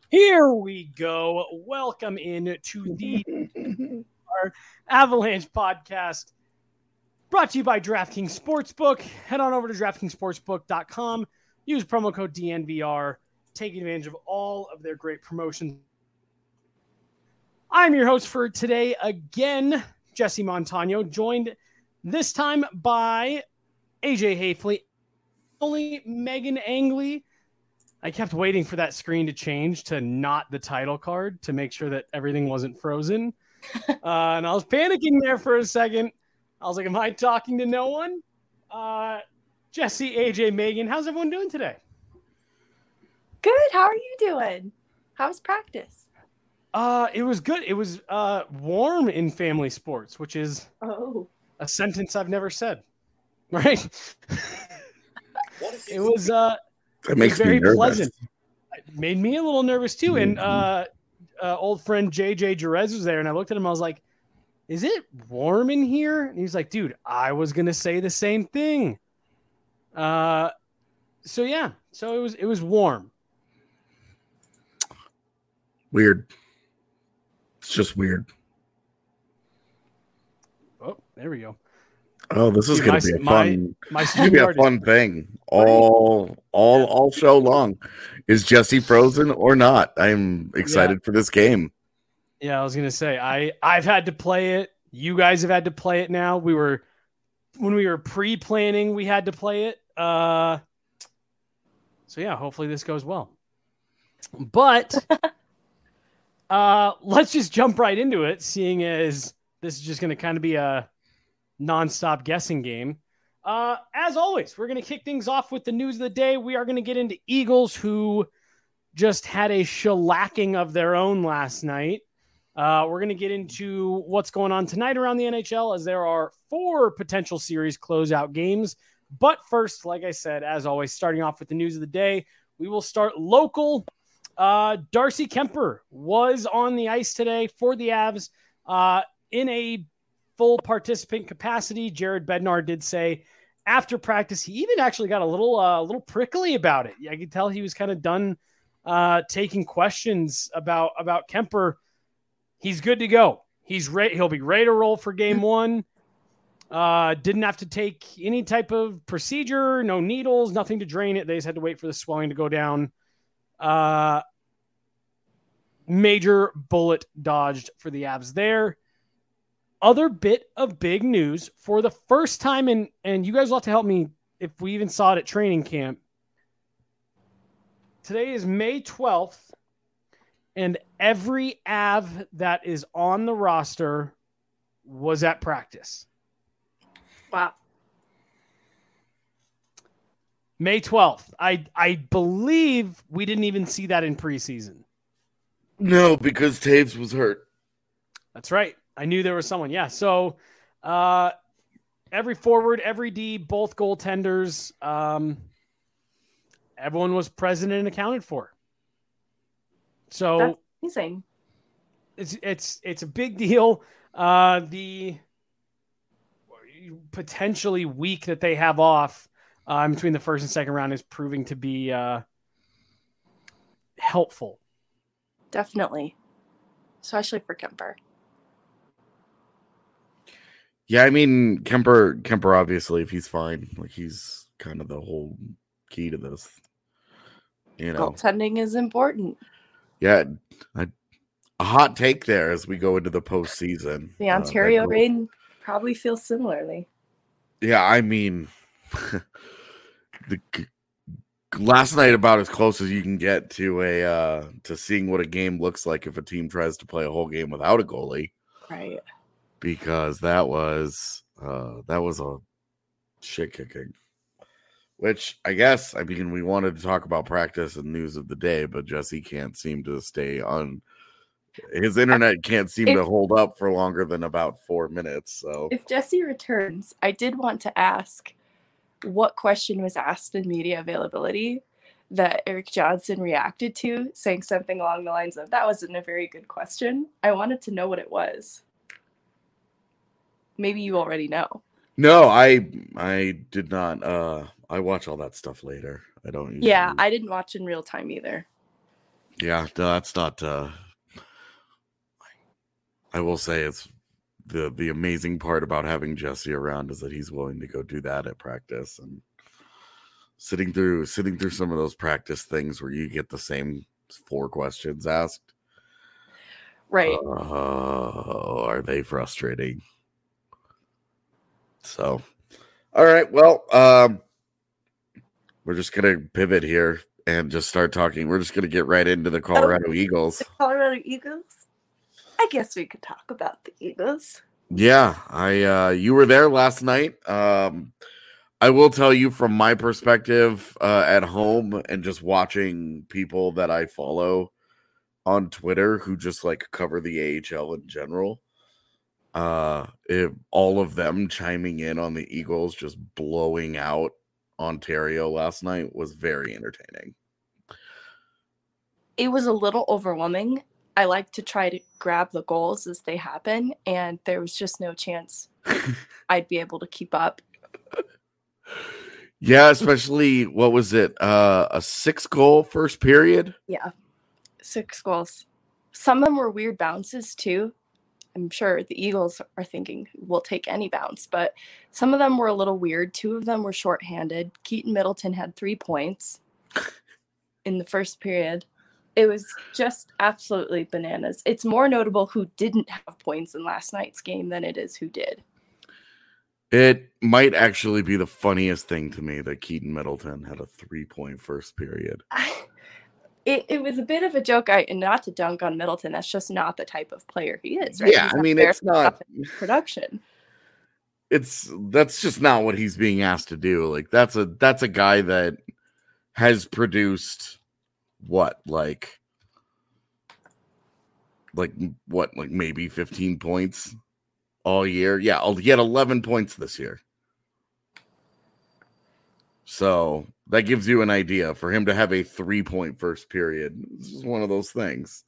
Here we go. Welcome in to the our Avalanche podcast brought to you by DraftKings Sportsbook. Head on over to DraftKingsSportsbook.com. Use promo code DNVR. Take advantage of all of their great promotions. I'm your host for today again, Jesse Montano, joined this time by AJ Hafley, only Megan Angley. I kept waiting for that screen to change to not the title card to make sure that everything wasn't frozen. And I was panicking there for a second. I was like, am I talking to no one? Jesse, AJ, Megan, how's everyone doing today? Good. How are you doing? How was practice? It was good. It was warm in family sports, which is a sentence I've never said. Right? It was that makes very me nervous. pleasant. It made me a little nervous too. And old friend JJ Jerez was there, and I looked at him. I was like, "Is it warm in here?" And he's like, "Dude, I was gonna say the same thing." So it was warm. Weird. It's just weird. Oh, there we go. Oh, this is going to be a fun. It's going to be a fun thing all show long. Is Jesse frozen or not? I'm excited for this game. Yeah, I was going to say I've had to play it. You guys have had to play it now. When we were pre-planning, we had to play it. So yeah, hopefully this goes well. But let's just jump right into it, seeing as this is just going to kind of be a nonstop guessing game. As always, we're going to kick things off with the news of the day. We are going to get into Eagles, who just had a shellacking of their own last night. We're going to get into what's going on tonight around the NHL, as there are 4 potential series closeout games. But first, like I said, as always, starting off with the news of the day, we will start local. Darcy Kuemper was on the ice today for the Avs in a full participant capacity. Jared Bednar did say after practice, he even actually got a little prickly about it. I could tell he was kind of done taking questions about Kuemper. He's good to go. He's ready. He'll be ready to roll for game 1. Didn't have to take any type of procedure, no needles, nothing to drain it. They just had to wait for the swelling to go down. Major bullet dodged for the Avs there. Other bit of big news for the first time, and you guys will have to help me if we even saw it at training camp. Today is May 12th, and every Av that is on the roster was at practice. Wow. May 12th. I believe we didn't even see that in preseason. No, because Taves was hurt. That's right. I knew there was someone. Yeah. So every forward, every D, both goaltenders, everyone was present and accounted for. So that's amazing. It's a big deal. The potentially week that they have off between the first and second round is proving to be helpful. Definitely. Especially for Kuemper. Yeah, I mean, Kuemper, obviously, if he's fine, like he's kind of the whole key to this. You know, goaltending is important. Yeah, a hot take there as we go into the postseason. The Ontario Reign probably feels similarly. Yeah, I mean, last night about as close as you can get to to seeing what a game looks like if a team tries to play a whole game without a goalie. Right. Because that was a shit kicking. Which I mean, we wanted to talk about practice and news of the day, but Jesse can't seem to stay on. His internet can't seem to hold up for longer than about 4 minutes. So if Jesse returns, I did want to ask what question was asked in media availability that Eric Johnson reacted to, saying something along the lines of, "That wasn't a very good question." I wanted to know what it was. Maybe you already know. No, I did not. I watch all that stuff later. I don't usually... Yeah, I didn't watch in real time either. Yeah, no, that's not. I will say it's the amazing part about having Jesse around is that he's willing to go do that at practice and sitting through some of those practice things where you get the same 4 questions asked. Right. Are they frustrating? So, all right. Well, we're just gonna pivot here and just start talking. We're just gonna get right into the Colorado Eagles. The Colorado Eagles? I guess we could talk about the Eagles. Yeah, you were there last night. I will tell you from my perspective at home and just watching people that I follow on Twitter who just like cover the AHL in general. If all of them chiming in on the Eagles just blowing out Ontario last night was very entertaining. It was a little overwhelming. I like to try to grab the goals as they happen, and there was just no chance I'd be able to keep up. Yeah, especially, what was it? A 6-goal first period? Yeah, 6 goals. Some of them were weird bounces too. I'm sure the Eagles are thinking we'll take any bounce, but some of them were a little weird. 2 of them were shorthanded. Keaton Middleton had 3 points in the first period. It was just absolutely bananas. It's more notable who didn't have points in last night's game than it is who did. It might actually be the funniest thing to me that Keaton Middleton had a 3-point first period. It was a bit of a joke. And not to dunk on Middleton, that's just not the type of player he is, right? Yeah, I mean, it's not production. That's just not what he's being asked to do. Like that's a guy that has produced like maybe 15 points all year. Yeah, he had 11 points this year. So that gives you an idea. For him to have a 3-point first period, this is one of those things.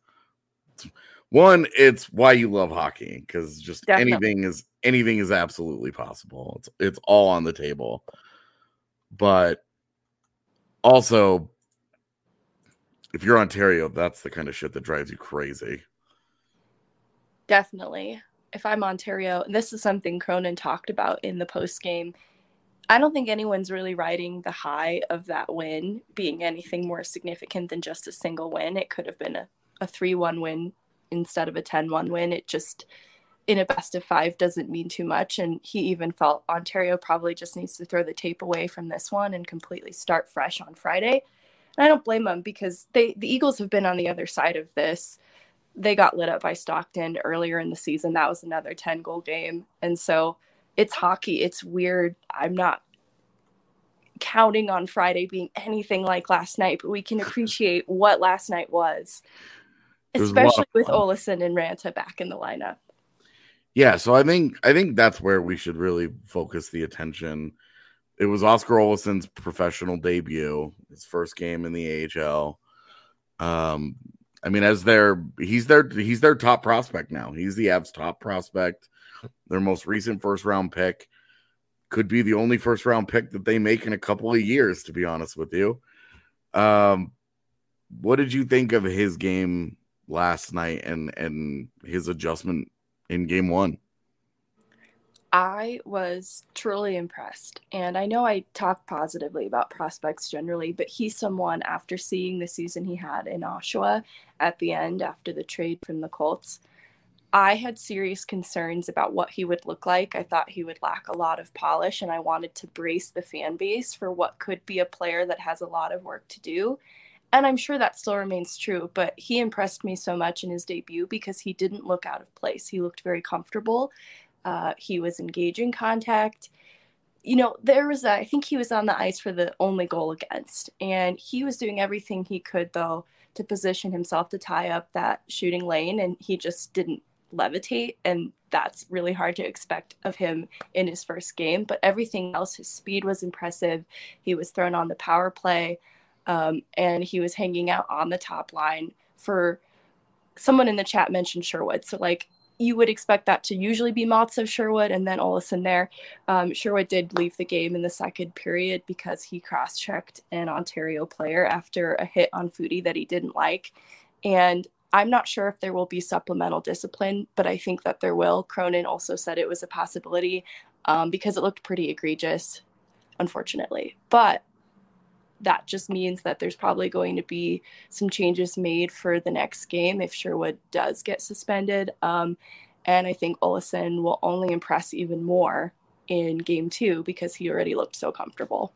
It's why you love hockey, because just anything is absolutely possible. It's all on the table. But also, if you're Ontario, that's the kind of shit that drives you crazy. Definitely. If I'm Ontario, and this is something Cronin talked about in the post game, I don't think anyone's really riding the high of that win being anything more significant than just a single win. It could have been a 3-1 win instead of a 10-1 win. It just, in a best of 5, doesn't mean too much. And he even felt Ontario probably just needs to throw the tape away from this one and completely start fresh on Friday. And I don't blame them, because the Eagles have been on the other side of this. They got lit up by Stockton earlier in the season. That was another 10-goal game. And so it's hockey. It's weird. I'm not counting on Friday being anything like last night, but we can appreciate what last night was, especially with Olesen and Ranta back in the lineup. Yeah, so I think that's where we should really focus the attention. It was Oscar Olesen's professional debut, his first game in the AHL. I mean, he's their top prospect now. He's the Avs' top prospect. Their most recent first-round pick. Could be the only first-round pick that they make in a couple of years, to be honest with you. What did you think of his game last night and his adjustment in game 1? I was truly impressed. And I know I talk positively about prospects generally, but he's someone, after seeing the season he had in Oshawa at the end after the trade from the Colts, I had serious concerns about what he would look like. I thought he would lack a lot of polish, and I wanted to brace the fan base for what could be a player that has a lot of work to do. And I'm sure that still remains true, but he impressed me so much in his debut because he didn't look out of place. He looked very comfortable. He was engaging contact. You know, I think he was on the ice for the only goal against, and he was doing everything he could, though, to position himself to tie up that shooting lane, and he just didn't levitate, and that's really hard to expect of him in his first game. But everything else, his speed was impressive. He was thrown on the power play, and he was hanging out on the top line. For someone in the chat mentioned Sherwood, so like, you would expect that to usually be Matza, Sherwood, and then Olesen there. Sherwood did leave the game in the second period because he cross-checked an Ontario player after a hit on Foudy that he didn't like. And I'm not sure if there will be supplemental discipline, but I think that there will. Cronin also said it was a possibility because it looked pretty egregious, unfortunately. But that just means that there's probably going to be some changes made for the next game if Sherwood does get suspended. And I think Olausson will only impress even more in game 2 because he already looked so comfortable.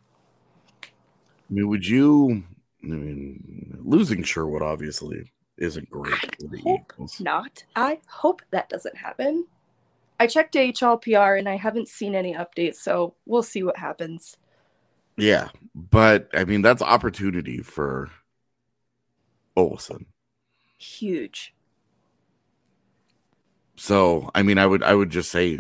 Losing Sherwood obviously isn't great for the Eagles. Not. I hope that doesn't happen. I checked AHLPR and I haven't seen any updates, so we'll see what happens. Yeah, but that's opportunity for Olausson. Huge. So, I would just say,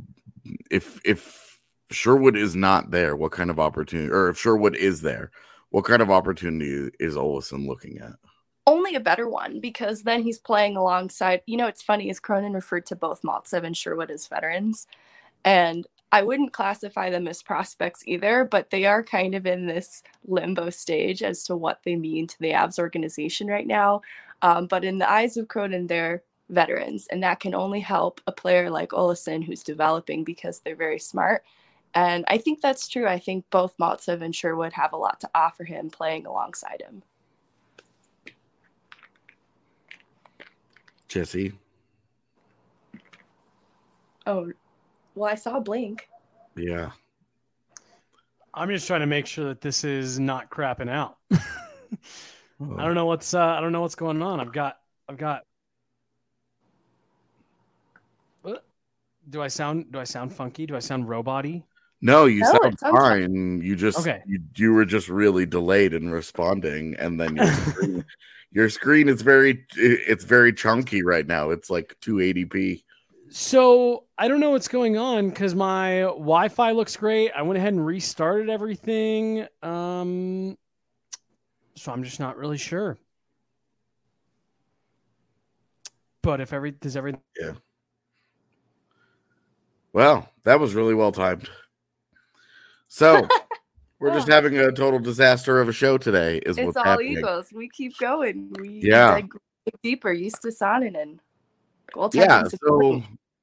if Sherwood is not there, what kind of opportunity, or if Sherwood is there, what kind of opportunity is Olausson looking at? Only a better one, because then he's playing alongside, it's funny, is Cronin referred to both Maltsev and Sherwood as veterans, and I wouldn't classify them as prospects either, but they are kind of in this limbo stage as to what they mean to the Avs organization right now. But in the eyes of Cronin, they're veterans, and that can only help a player like Olausson who's developing because they're very smart. And I think that's true. I think both Maltsev and Sherwood have a lot to offer him playing alongside him. Jesse? Oh, well, I saw a blink. Yeah. I'm just trying to make sure that this is not crapping out. I don't know what's going on. I've got what? Do I sound funky? Do I sound robot-y? No, you sound fine. You just okay. You were just really delayed in responding, and then your screen is very chunky right now. It's like 280p. So I don't know what's going on because my Wi-Fi looks great. I went ahead and restarted everything. So I'm just not really sure. But does everything? Yeah. Well, that was really well timed. So we're just having a total disaster of a show today. It's what's all happening. Eagles. We keep going. We dig deeper. Justus Saarinen. So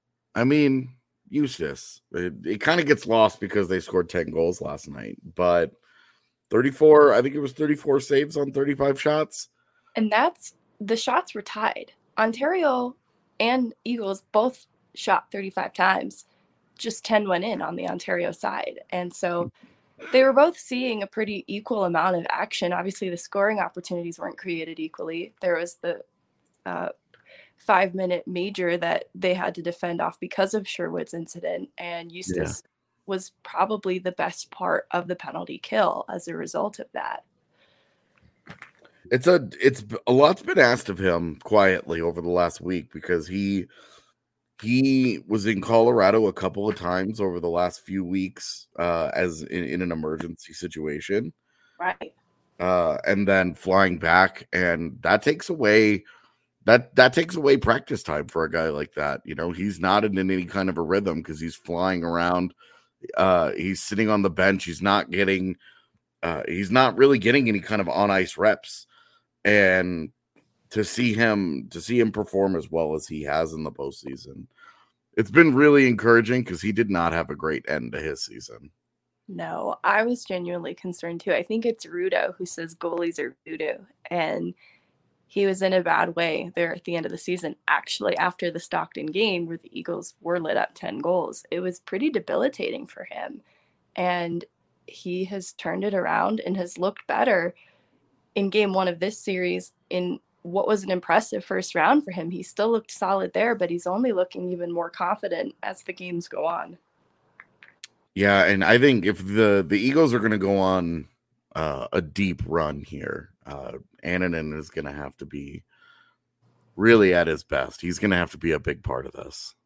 Justus. It kind of gets lost because they scored 10 goals last night, but 34. I think it was 34 saves on 35 shots. And the shots were tied. Ontario and Eagles both shot 35 times. Just 10 went in on the Ontario side. And so they were both seeing a pretty equal amount of action. Obviously, the scoring opportunities weren't created equally. There was the 5-minute major that they had to defend off because of Sherwood's incident. And Justus was probably the best part of the penalty kill as a result of that. It's a lot's been asked of him quietly over the last week because he was in Colorado a couple of times over the last few weeks as in an emergency situation. Right. And then flying back, and that takes away practice time for a guy like that. He's not in any kind of a rhythm because he's flying around. He's sitting on the bench. He's not really getting any kind of on ice reps. And to see him perform as well as he has in the postseason, it's been really encouraging because he did not have a great end to his season. No, I was genuinely concerned too. I think it's Rudo who says goalies are voodoo, and he was in a bad way there at the end of the season. Actually, after the Stockton game where the Eagles were lit up 10 goals, it was pretty debilitating for him. And he has turned it around and has looked better in game 1 of this series in what was an impressive first round for him. He still looked solid there, but he's only looking even more confident as the games go on. Yeah, and I think if the Eagles are going to go on a deep run here, Annunen is going to have to be really at his best. He's going to have to be a big part of this.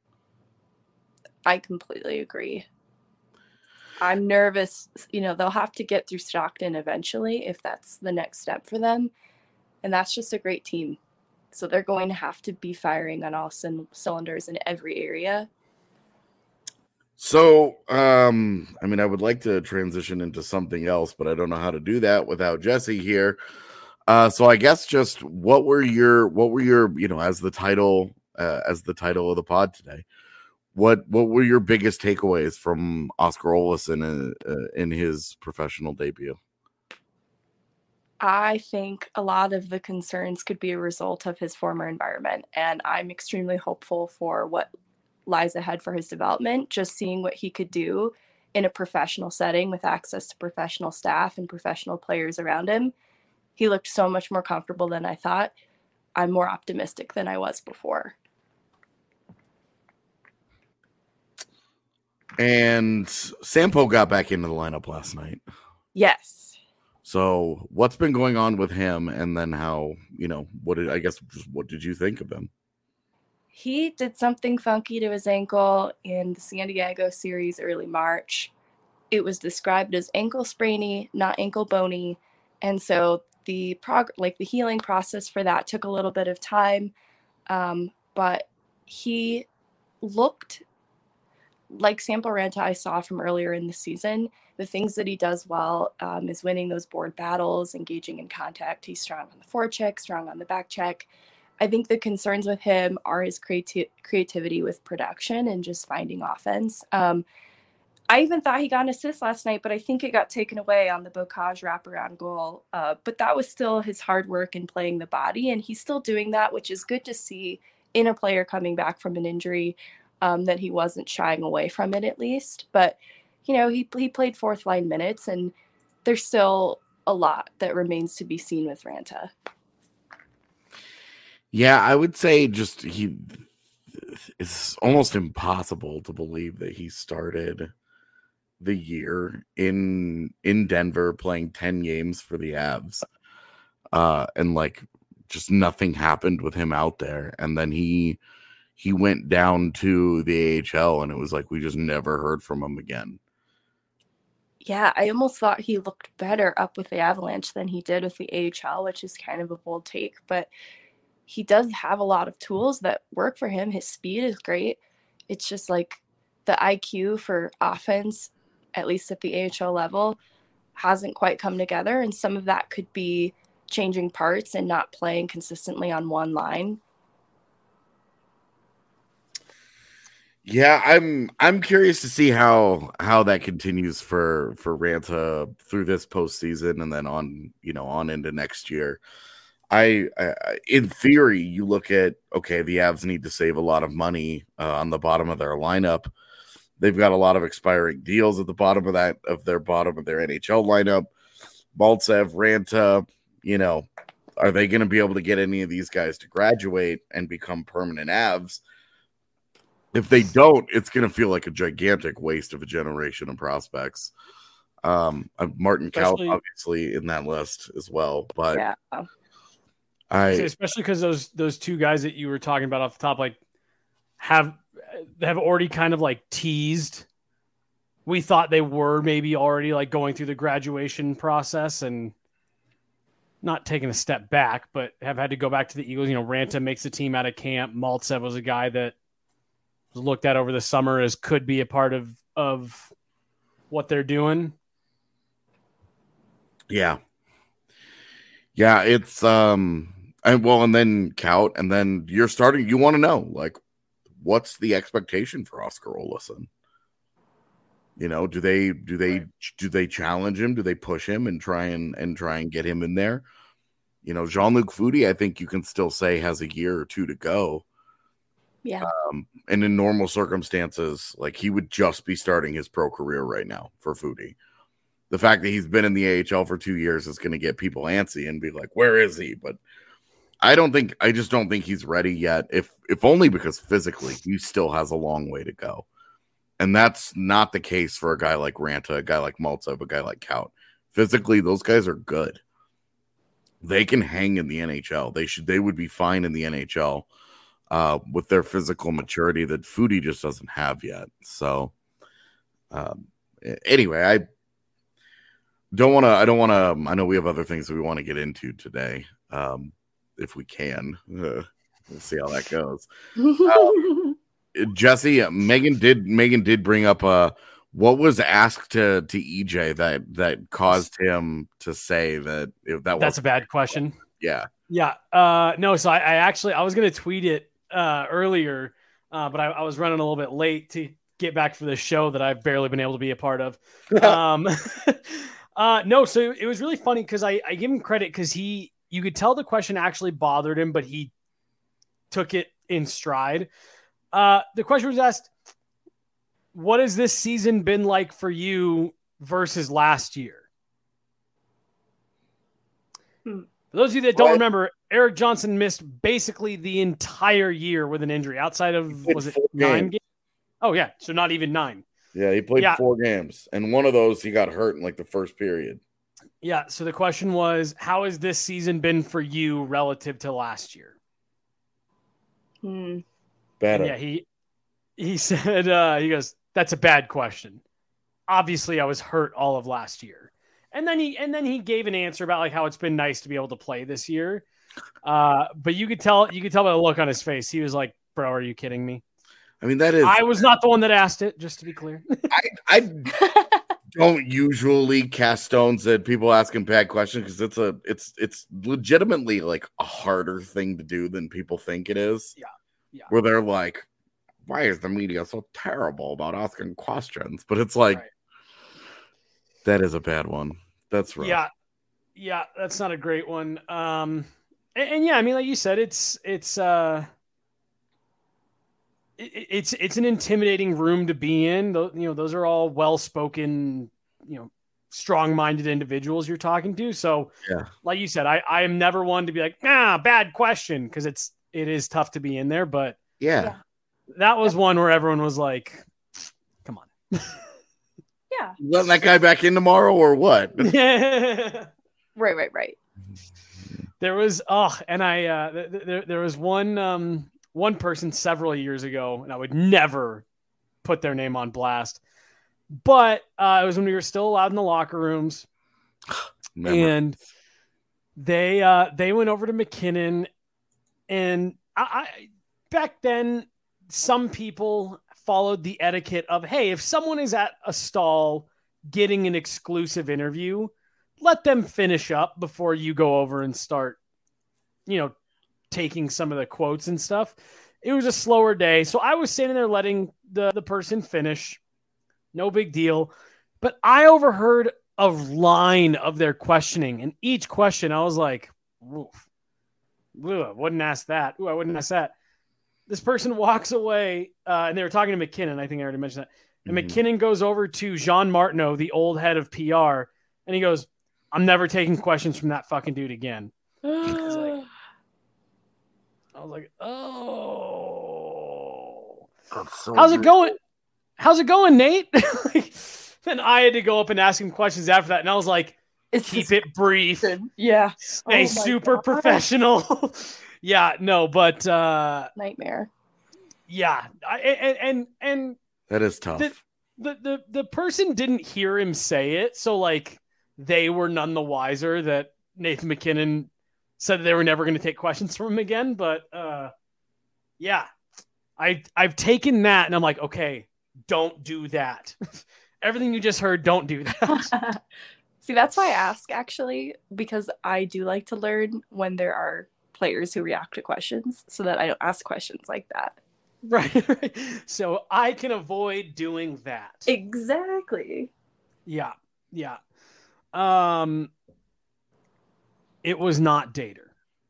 I completely agree. I'm nervous. They'll have to get through Stockton eventually if that's the next step for them. And that's just a great team. So they're going to have to be firing on all cylinders in every area. So, I would like to transition into something else, but I don't know how to do that without Jesse here. So I guess just what were your as the title of the pod today? What were your biggest takeaways from Oskar Olausson in his professional debut? I think a lot of the concerns could be a result of his former environment, and I'm extremely hopeful for what lies ahead for his development. Just seeing what he could do in a professional setting with access to professional staff and professional players around him. He looked so much more comfortable than I thought. I'm more optimistic than I was before. And Sampo got back into the lineup last night. Yes. So what's been going on with him? And then how, what did you think of him? He did something funky to his ankle in the San Diego series early March. It was described as ankle sprainy, not ankle bony. And so the healing process for that took a little bit of time. But he looked like Sampo Ranta I saw from earlier in the season. The things that he does well is winning those board battles, engaging in contact. He's strong on the forecheck, strong on the back check. I think the concerns with him are his creativity with production and just finding offense. I even thought he got an assist last night, but I think it got taken away on the Bocage wraparound goal. But that was still his hard work in playing the body, and he's still doing that, which is good to see in a player coming back from an injury, that he wasn't shying away from it at least. But, he played fourth line minutes, and there's still a lot that remains to be seen with Ranta. Yeah, I would say it's almost impossible to believe that he started the year in Denver playing 10 games for the Avs. And just nothing happened with him out there. And then he went down to the AHL, and it was like we just never heard from him again. Yeah, I almost thought he looked better up with the Avalanche than he did with the AHL, which is kind of a bold take, but he does have a lot of tools that work for him. His speed is great. It's just the IQ for offense, at least at the AHL level, hasn't quite come together. And some of that could be changing parts and not playing consistently on one line. Yeah, I'm curious to see how that continues for Ranta through this postseason and then on into next year. I in theory, you look at the Avs need to save a lot of money on the bottom of their lineup. They've got a lot of expiring deals at the bottom of their NHL lineup. Maltsev, Ranta, are they going to be able to get any of these guys to graduate and become permanent Avs? If they don't, it's going to feel like a gigantic waste of a generation of prospects. Martin Kaut, obviously, in that list as well. But yeah. Especially because those two guys that you were talking about off the top, have already kind of teased. We thought they were maybe already going through the graduation process and not taking a step back, but have had to go back to the Eagles. Ranta makes the team out of camp. Maltsev was a guy that was looked at over the summer as could be a part of what they're doing. Yeah. Yeah, it's and then Kaut, and then you want to know what's the expectation for Oskar Olausson? Do they challenge him? Do they push him and try and get him in there? Jean-Luc Foudy, I think you can still say has a year or two to go. Yeah. And in normal circumstances, he would just be starting his pro career right now for Foudy. The fact that he's been in the AHL for 2 years is going to get people antsy and be like, where is he? But I just don't think he's ready yet. If only because physically he still has a long way to go. And that's not the case for a guy like Ranta, a guy like Maltsev, a guy like Kaut. Physically, those guys are good. They can hang in the NHL. They would be fine in the NHL with their physical maturity that Foudy just doesn't have yet. So anyway, I don't want to, I know we have other things that we want to get into today. If we can, we'll see how that goes. Jesse, Megan did bring up what was asked to EJ that caused him to say that's a bad question. Yeah. Yeah. No, so I was going to tweet it earlier, but I was running a little bit late to get back for this show that I've barely been able to be a part of. No, so it was really funny because I give him credit because you could tell the question actually bothered him, but he took it in stride. The question was asked, what has this season been like for you versus last year? For those of you that don't remember, Erik Johnson missed basically the entire year with an injury outside of, was it 9 games? Oh, yeah. So not even 9. Yeah, he played 4 games. And one of those, he got hurt in like the first period. Yeah. So the question was, how has this season been for you relative to last year? Better. And yeah, he said, he goes, that's a bad question. Obviously, I was hurt all of last year. And then he gave an answer about like how it's been nice to be able to play this year. But you could tell by the look on his face. He was like, bro, are you kidding me? I mean, that is. I was not the one that asked it, just to be clear. I don't usually cast stones at people asking bad questions because it's legitimately like a harder thing to do than people think it is. Yeah. Where they're like, why is the media so terrible about asking questions? But it's like, that is a bad one. That's right. Yeah, that's not a great one. And yeah, I mean, like you said, it's an intimidating room to be in. Those are all well-spoken, strong-minded individuals you're talking to. So, like you said, I am never one to be like, bad question, because it is tough to be in there. But that was one where everyone was like, come on. Yeah. Letting that guy back in tomorrow or what? Right. There was there was one person several years ago, and I would never put their name on blast, but it was when we were still allowed in the locker rooms, and they went over to McKinnon, and I back then some people followed the etiquette of, hey, if someone is at a stall getting an exclusive interview, let them finish up before you go over and start, taking some of the quotes and stuff. It was a slower day. So I was standing there letting the person finish. No big deal. But I overheard a line of their questioning. And each question, I was like, oof. Ooh, I wouldn't ask that. Ooh, I wouldn't ask that. This person walks away, and they were talking to McKinnon. I think I already mentioned that. And McKinnon goes over to Jean Martineau, the old head of PR, and he goes, I'm never taking questions from that fucking dude again. I was like, oh. So How's it going? How's it going, Nate? Then I had to go up and ask him questions after that. And I was like, keep it brief. Yeah. Stay super professional. Yeah, no, but nightmare. Yeah, and that is tough. The person didn't hear him say it, so like they were none the wiser that Nathan McKinnon said that they were never going to take questions from him again. But yeah, I've taken that and I'm like, okay, don't do that. Everything you just heard, don't do that. See, that's why I ask, actually, because I do like to learn when there are players who react to questions so that I don't ask questions like that. Right. So I can avoid doing that. Exactly. Yeah. It was not Dater.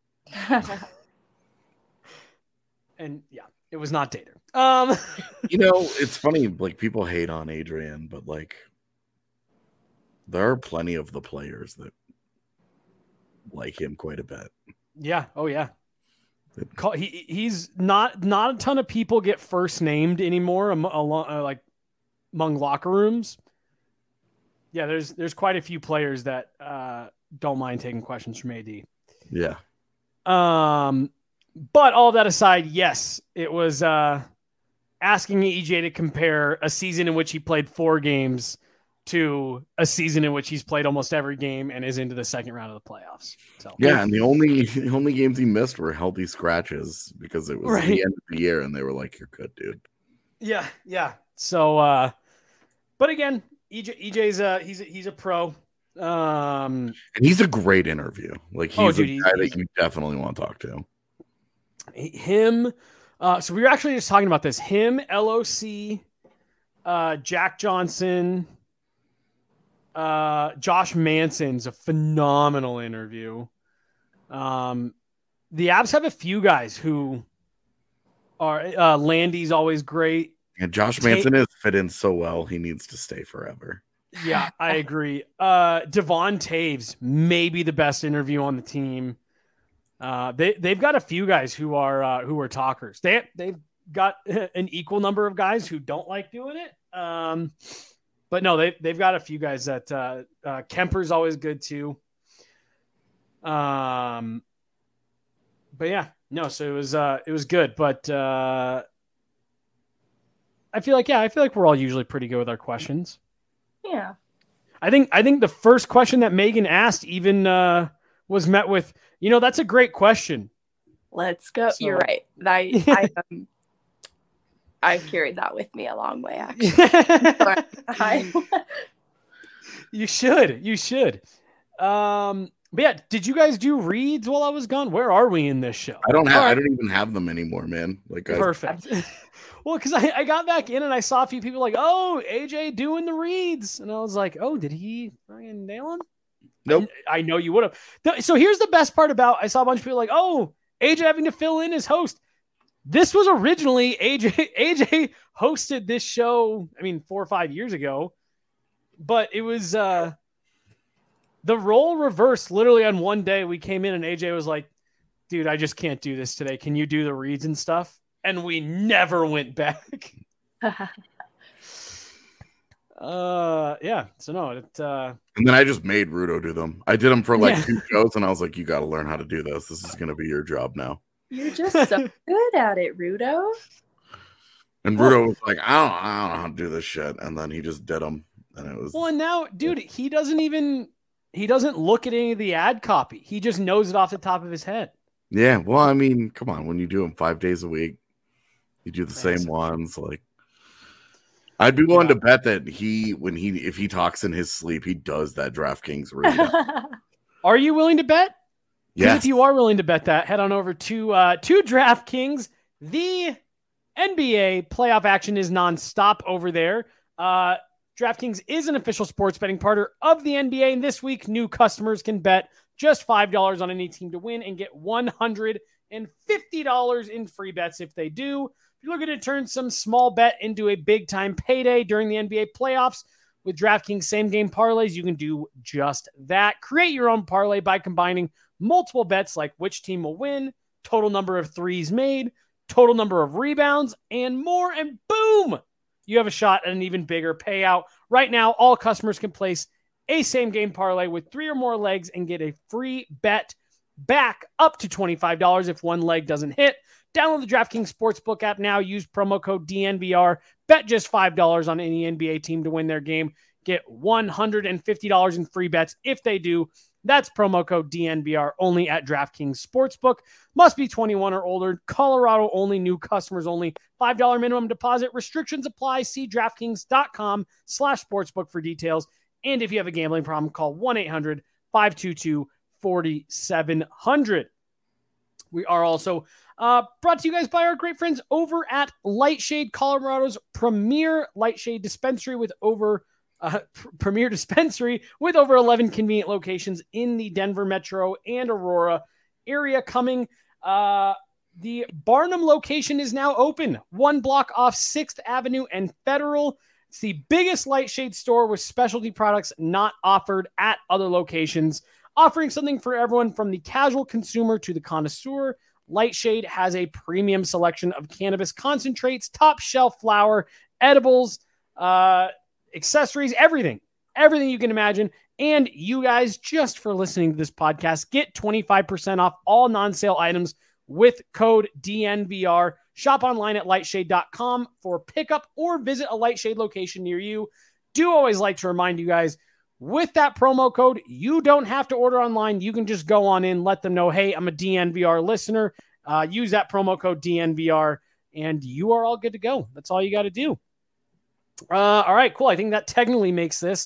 And yeah, it was not Dater. It's funny, like people hate on Adrian, but like there are plenty of the players that like him quite a bit. Yeah. Oh yeah. He's not a ton of people get first named anymore like among locker rooms. Yeah, there's quite a few players that don't mind taking questions from AD. Yeah. But all that aside, yes, it was asking EJ to compare a season in which he played 4 games to a season in which he's played almost every game and is into the second round of the playoffs. So yeah, and the only games he missed were healthy scratches because it was the end of the year and they were like, "You're good, dude." Yeah. So, but again, EJ's he's a pro. And he's a great interview. Like he's a guy that you definitely want to talk to. Him. So we were actually just talking about this. Him, LOC, Jack Johnson, Josh Manson's a phenomenal interview. The Abs have a few guys who are Landy's always great. And Josh Manson is fit in so well. He needs to stay forever. Yeah, I agree. Devon Taves, maybe the best interview on the team. They've got a few guys who are talkers. They've got an equal number of guys who don't like doing it. But no, they've got a few guys that Kemper's always good too. But yeah, no, so it was good, but I feel like we're all usually pretty good with our questions. Yeah. I think the first question that Megan asked even was met with, that's a great question. Let's go. So, you're right. I've carried that with me a long way, actually. You should. But yeah, did you guys do reads while I was gone? Where are we in this show? I don't even have them anymore, man. Like perfect. Well, because I got back in and I saw a few people like, oh, AJ doing the reads. And I was like, oh, did he fucking nail him? Nope. I know you would have. So here's the best part about, I saw a bunch of people like, oh, AJ having to fill in as host. This was originally AJ hosted this show, 4 or 5 years ago, but it was the role reversed literally on one day. We came in and AJ was like, dude, I just can't do this today. Can you do the reads and stuff? And we never went back. Yeah. So no, and then I just made Rudo do them. I did them for 2 shows and I was like, you got to learn how to do this. This is going to be your job now. You're just so good at it, Rudo. And Rudo was like, I don't know how to do this shit. And then he just did them. And it was. Well, and now, dude, he doesn't look at any of the ad copy. He just knows it off the top of his head. Yeah. Well, come on. When you do them 5 days a week, you do the same ones. Like, I'd be willing to bet that if he talks in his sleep, he does that DraftKings read. Are you willing to bet? Yes. If you are willing to bet that, head on over to DraftKings. The NBA playoff action is nonstop over there. DraftKings is an official sports betting partner of the NBA, and this week new customers can bet just $5 on any team to win and get $150 in free bets if they do. If you're looking to turn some small bet into a big-time payday during the NBA playoffs, with DraftKings same-game parlays, you can do just that. Create your own parlay by combining multiple bets like which team will win, total number of threes made, total number of rebounds, and more, and boom! You have a shot at an even bigger payout. Right now, all customers can place a same-game parlay with 3 or more legs and get a free bet back up to $25 if one leg doesn't hit. Download the DraftKings Sportsbook app now. Use promo code DNVR. Bet just $5 on any NBA team to win their game. Get $150 in free bets if they do. That's promo code DNVR only at DraftKings Sportsbook. Must be 21 or older. Colorado only. New customers only. $5 minimum deposit. Restrictions apply. See DraftKings.com/sportsbook for details. And if you have a gambling problem, call 1-800-522-4700. We are also brought to you guys by our great friends over at Lightshade, Colorado's premier Lightshade dispensary with over 11 convenient locations in the Denver metro and Aurora area. Coming, the Barnum location is now open, 1 block off 6th Avenue and Federal. It's the biggest Lightshade store with specialty products not offered at other locations, offering something for everyone from the casual consumer to the connoisseur. Lightshade has a premium selection of cannabis concentrates, top shelf flower, edibles, accessories, everything you can imagine. And you guys, just for listening to this podcast, get 25% off all non-sale items with code DNVR. Shop online at lightshade.com for pickup or visit a Lightshade location near you. Do always like to remind you guys, with that promo code, you don't have to order online. You can just go on in, let them know, hey, I'm a DNVR listener. Use that promo code DNVR, and you are all good to go. That's all you got to do. All right, cool. I think that technically makes this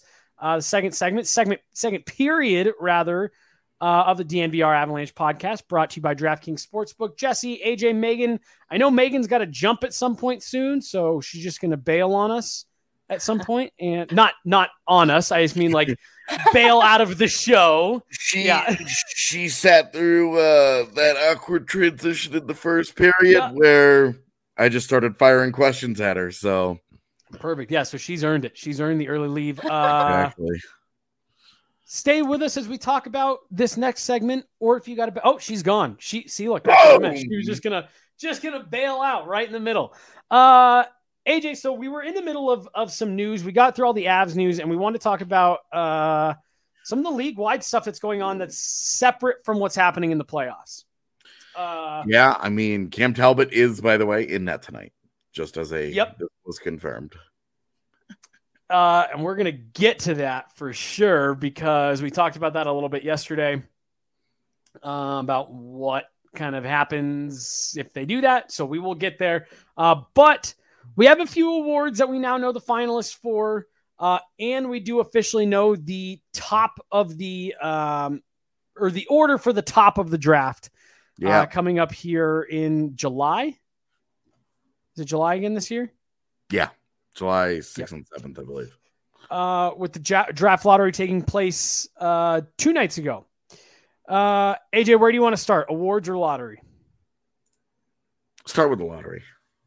The second period, rather, of the DNVR Avalanche podcast, brought to you by DraftKings Sportsbook. Jesse, AJ, Megan. I know Megan's got to jump at some point soon, so she's just going to bail on us at some point, and not on us. I just mean like bail out of the show. She sat through that awkward transition in the first period where I just started firing questions at her. So perfect. Yeah. So she's earned it. She's earned the early leave. Exactly. Stay with us as we talk about this next segment, or if you got to, she's gone. Look, she was just gonna bail out right in the middle. AJ, so we were in the middle of some news. We got through all the Avs news, and we wanted to talk about some of the league-wide stuff that's going on that's separate from what's happening in the playoffs. Yeah, I mean, Cam Talbot is, by the way, in net tonight, just as this was confirmed. And we're going to get to that for sure, because we talked about that a little bit yesterday about what kind of happens if they do that. So we will get there. But we have a few awards that we now know the finalists for. And we do officially know the top of the or the order for the top of the draft coming up here in July. Is it July again this year? Yeah. July 6th and 7th, I believe. With the draft lottery taking place 2 nights ago. AJ, where do you want to start? Awards or lottery? Start with the lottery.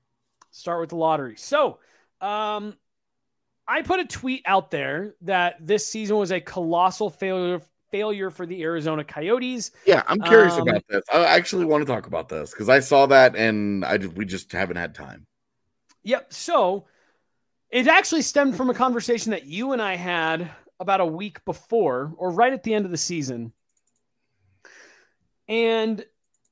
So, I put a tweet out there that this season was a colossal failure for the Arizona Coyotes. Yeah, I'm curious about this. I actually want to talk about this because I saw that and we just haven't had time. Yep. So it actually stemmed from a conversation that you and I had about a week before, or right at the end of the season. And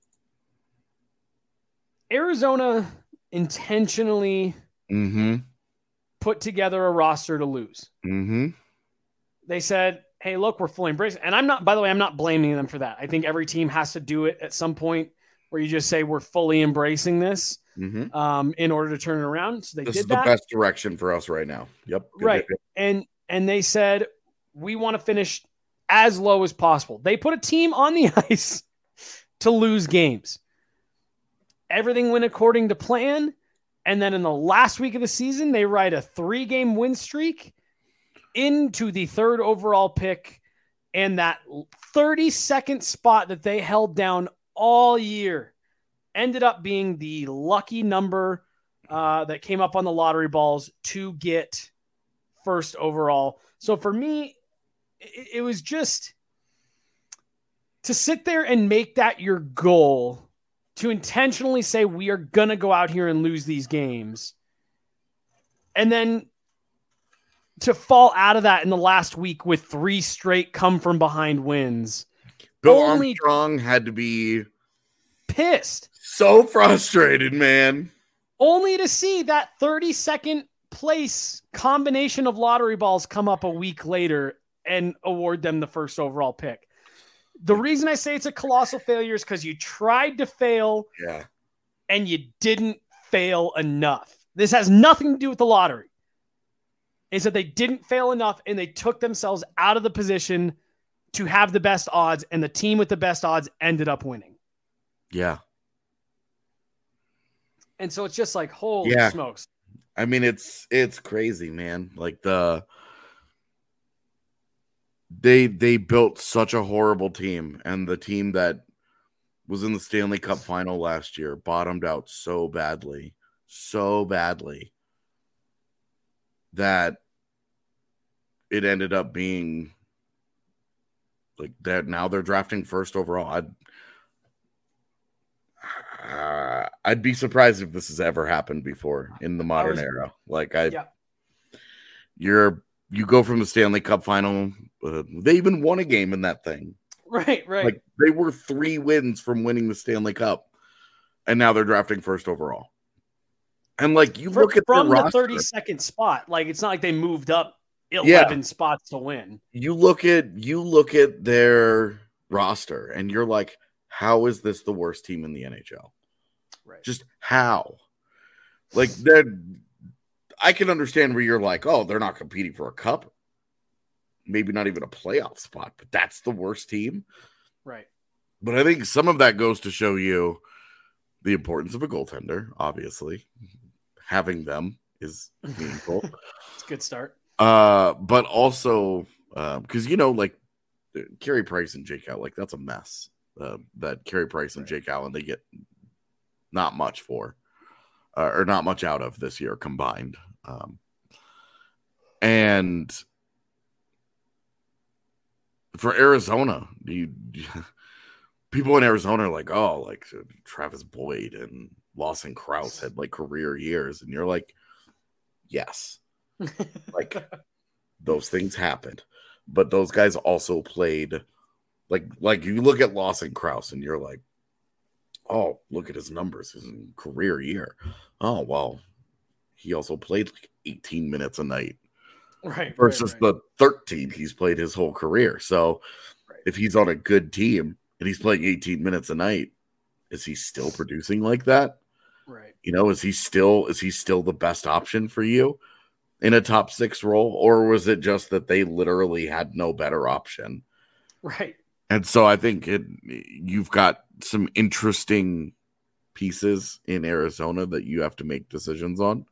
Arizona intentionally put together a roster to lose. They said, hey, look, we're fully embracing. And I'm not blaming them for that. I think every team has to do it at some point where you just say we're fully embracing this in order to turn it around. So this is the best direction for us right now. Yep. Right. And they said, we want to finish as low as possible. They put a team on the ice to lose games. Everything went according to plan. And then in the last week of the season, they ride a 3-game win streak into the 3rd overall pick. And that 32nd spot that they held down all year ended up being the lucky number that came up on the lottery balls to get 1st overall. So for me, it was just to sit there and make that your goal, to intentionally say we are going to go out here and lose these games, and then to fall out of that in the last week with 3 straight come from behind wins. Bill Armstrong had to be pissed. So frustrated, man. Only to see that 32nd place combination of lottery balls come up a week later and award them the 1st overall pick. The reason I say it's a colossal failure is because you tried to fail and you didn't fail enough. This has nothing to do with the lottery. It's that they didn't fail enough and they took themselves out of the position to have the best odds, and the team with the best odds ended up winning. Yeah. And so it's just like, holy smokes. I mean, it's crazy, man. Like they built such a horrible team, and the team that was in the Stanley Cup final last year bottomed out so badly that it ended up being like that. Now they're drafting 1st overall. I'd be surprised if this has ever happened before in the modern era. Like you go from the Stanley Cup final. They even won a game in that thing. Right. Like they were 3 wins from winning the Stanley Cup, and now they're drafting 1st overall. And like you look at from the roster, 32nd spot, like it's not like they moved up 11 spots to win. You look at their roster, and you're like, how is this the worst team in the NHL? Right. Just how? Like I can understand where you're like, oh, they're not competing for a cup. maybe not even a playoff spot, but that's the worst team. Right. But I think some of that goes to show you the importance of a goaltender, obviously. Having them is meaningful. It's a good start. But also, because, like Carey Price and Jake Allen, like that's a mess. That Carey Price and Jake Allen, they get not much for, or not much out of this year combined. And for Arizona, people in Arizona are like, oh, like Travis Boyd and Lawson Krause had like career years. And you're like, yes, like those things happened. But those guys also played like you look at Lawson Krause and you're like, oh, look at his numbers, his career year. Oh, well, he also played like 18 minutes a night. Right. Versus the 13 he's played his whole career. So if he's on a good team and he's playing 18 minutes a night, is he still producing like that? Right. Is he still the best option for you in a top 6 role? Or was it just that they literally had no better option? Right. And so I think you've got some interesting pieces in Arizona that you have to make decisions on.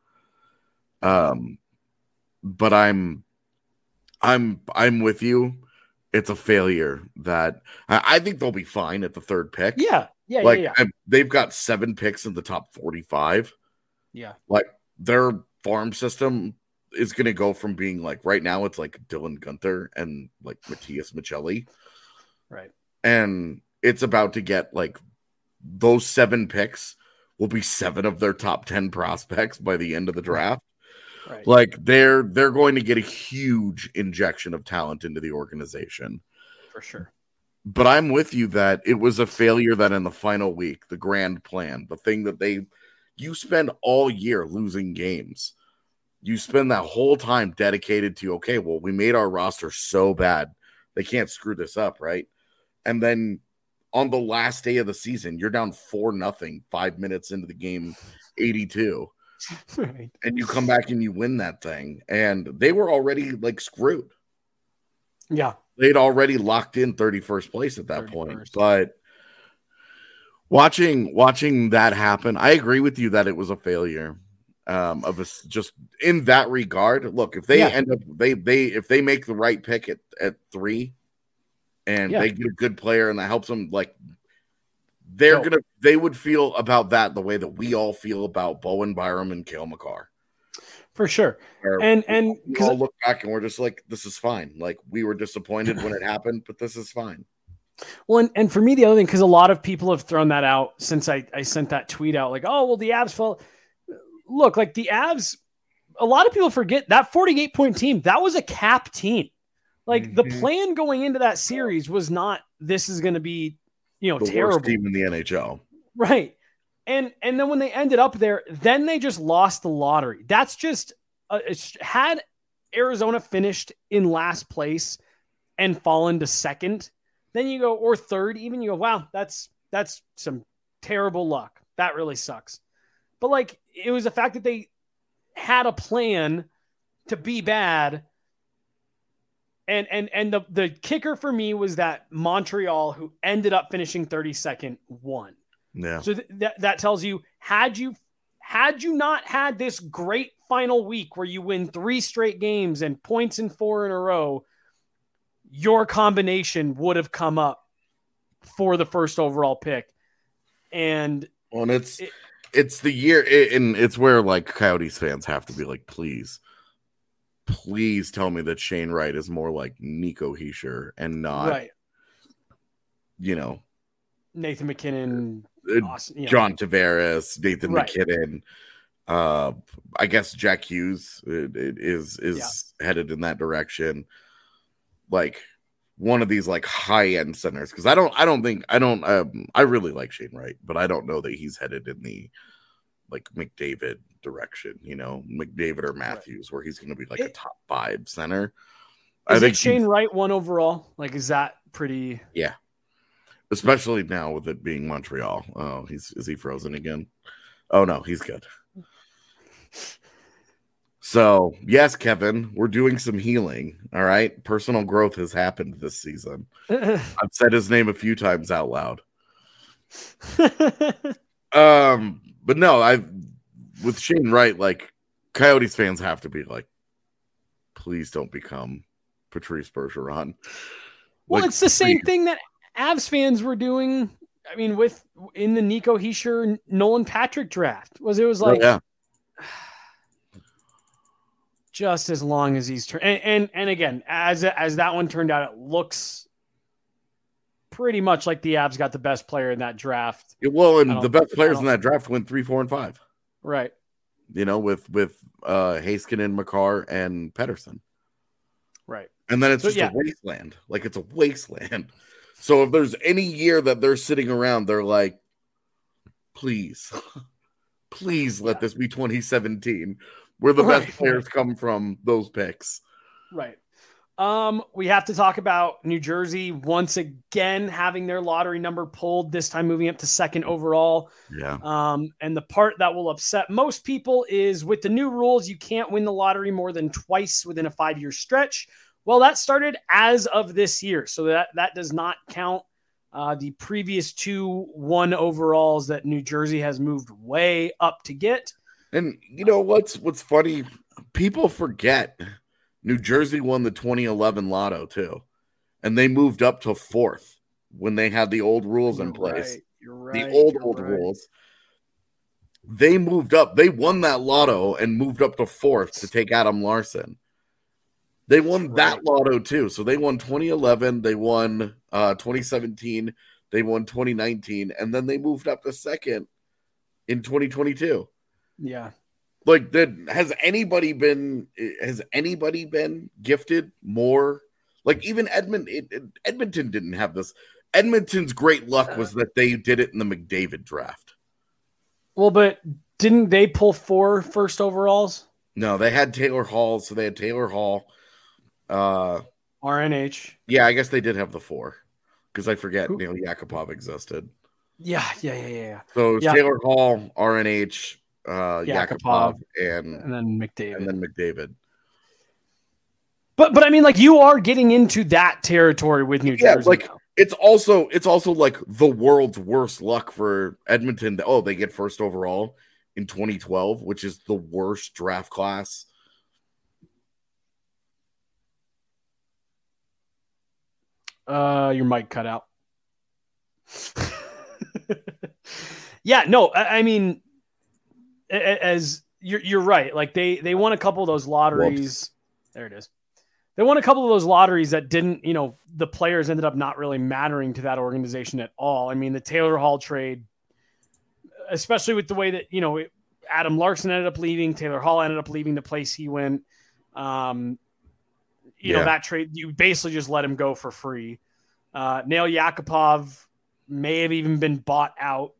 But I'm with you. It's a failure that I think they'll be fine at the 3rd pick. Yeah. They've got 7 picks in the top 45. Yeah. Like their farm system is going to go from being like right now it's like Dylan Guenther and like Matthias Michelli. Right. And it's about to get like those 7 picks will be 7 of their top 10 prospects by the end of the draft. Right. Like they're going to get a huge injection of talent into the organization. For sure. But I'm with you that it was a failure that in the final week, the grand plan, the thing that you spend all year losing games. You spend that whole time dedicated to, okay, well, we made our roster so bad. They can't screw this up, right? And then on the last day of the season, you're down 4-0, 5 minutes into the game, 82. Right. And you come back and you win that thing. And they were already like screwed. Yeah. They'd already locked in 31st place at that 31st point. But watching that happen, I agree with you that it was a failure. Just in that regard. Look, if they end up if they make the right pick at 3 and they get a good player and that helps them, like they would feel about that the way that we all feel about Bowen Byram and Cale Makar. For sure. And we all look back and we're just like, this is fine. Like we were disappointed when it happened, but this is fine. Well, and for me, the other thing, because a lot of people have thrown that out since I sent that tweet out, like, oh, well, the Avs fell. Look, like the Avs, a lot of people forget that 48-point team, that was a cap team. Like the plan going into that series was not, this is going to be, the terrible worst team in the NHL. Right. And then when they ended up there, then they just lost the lottery. That's just had Arizona finished in last place and fallen to 2nd, then you go, or 3rd, even you go, wow, that's some terrible luck. That really sucks. But like, it was the fact that they had a plan to be bad. And the kicker for me was that Montreal, who ended up finishing 32nd, won. Yeah. So that tells you, had you not had this great final week where you win 3 straight games and points in 4 in a row, your combination would have come up for the 1st overall pick. And it's the year, and it's where like Coyotes fans have to be like, please tell me that Shane Wright is more like Nico Hischier and not, Nathan McKinnon, John Tavares, Nathan McKinnon. I guess Jack Hughes is headed in that direction. Like one of these like high end centers, because I really like Shane Wright, but I don't know that he's headed in the like McDavid direction, McDavid or Matthews, where he's going to be like a top 5 center. I think Shane Wright 1 overall. Like, is that pretty? Yeah. Especially now with it being Montreal. Oh, is he frozen again? Oh no, he's good. So, yes, Kevin, we're doing some healing. All right. Personal growth has happened this season. I've said his name a few times out loud. But no, with Shane Wright, like Coyotes fans have to be like, please don't become Patrice Bergeron. Well, Like, it's the same thing that Avs fans were doing. I mean, in the Nico Hischier, Nolan Patrick draft it was like, yeah. Just as long as he's and again, as that one turned out, it looks pretty much like the Avs got the best player in that draft. Well, and the best players in that draft went 3, 4, and 5. Right. You know, with Heiskanen, Makar, and Pettersson. Right. And then it's just a wasteland. Like, it's a wasteland. So if there's any year that they're sitting around, they're like, please let this be 2017. Where the best players come from those picks. Right. We have to talk about New Jersey once again having their lottery number pulled, this time moving up to second overall. Yeah. And the part that will upset most people is with the new rules, you can't win the lottery more than twice within a 5-year stretch. Well, that started as of this year. So that does not count the previous 2 1 overalls that New Jersey has moved way up to get. And you know what's funny? People forget New Jersey won the 2011 Lotto too, and they moved up to 4th when they had the old rules in place. You're right. The old rules. They moved up. They won that Lotto and moved up to 4th to take Adam Larson. They won that Lotto too. So they won 2011. They won 2017. They won 2019, and then they moved up to 2nd in 2022. Yeah. Like, has anybody been gifted more? Like, even Edmonton didn't have this. Edmonton's great luck was that they did it in the McDavid draft. Well, but didn't they pull 4 first overalls? No, they had Taylor Hall, so they had Taylor Hall. RNH. Yeah, I guess they did have the 4 because I forget Neil Yakupov existed. Yeah. So it was Taylor Hall, RNH, Yakupov, and then McDavid. But I mean, like, you are getting into that territory with New Jersey. Like now. it's also like the world's worst luck for Edmonton. They get first overall in 2012, which is the worst draft class. Your mic cut out. Yeah, no, I mean, as you're right. Like they won a couple of those lotteries. Whoops. There it is. They won a couple of those lotteries that didn't, the players ended up not really mattering to that organization at all. I mean, the Taylor Hall trade, especially with the way that, Adam Larson ended up leaving, Taylor Hall ended up leaving the place he went. That trade, you basically just let him go for free. Nail Yakupov may have even been bought out.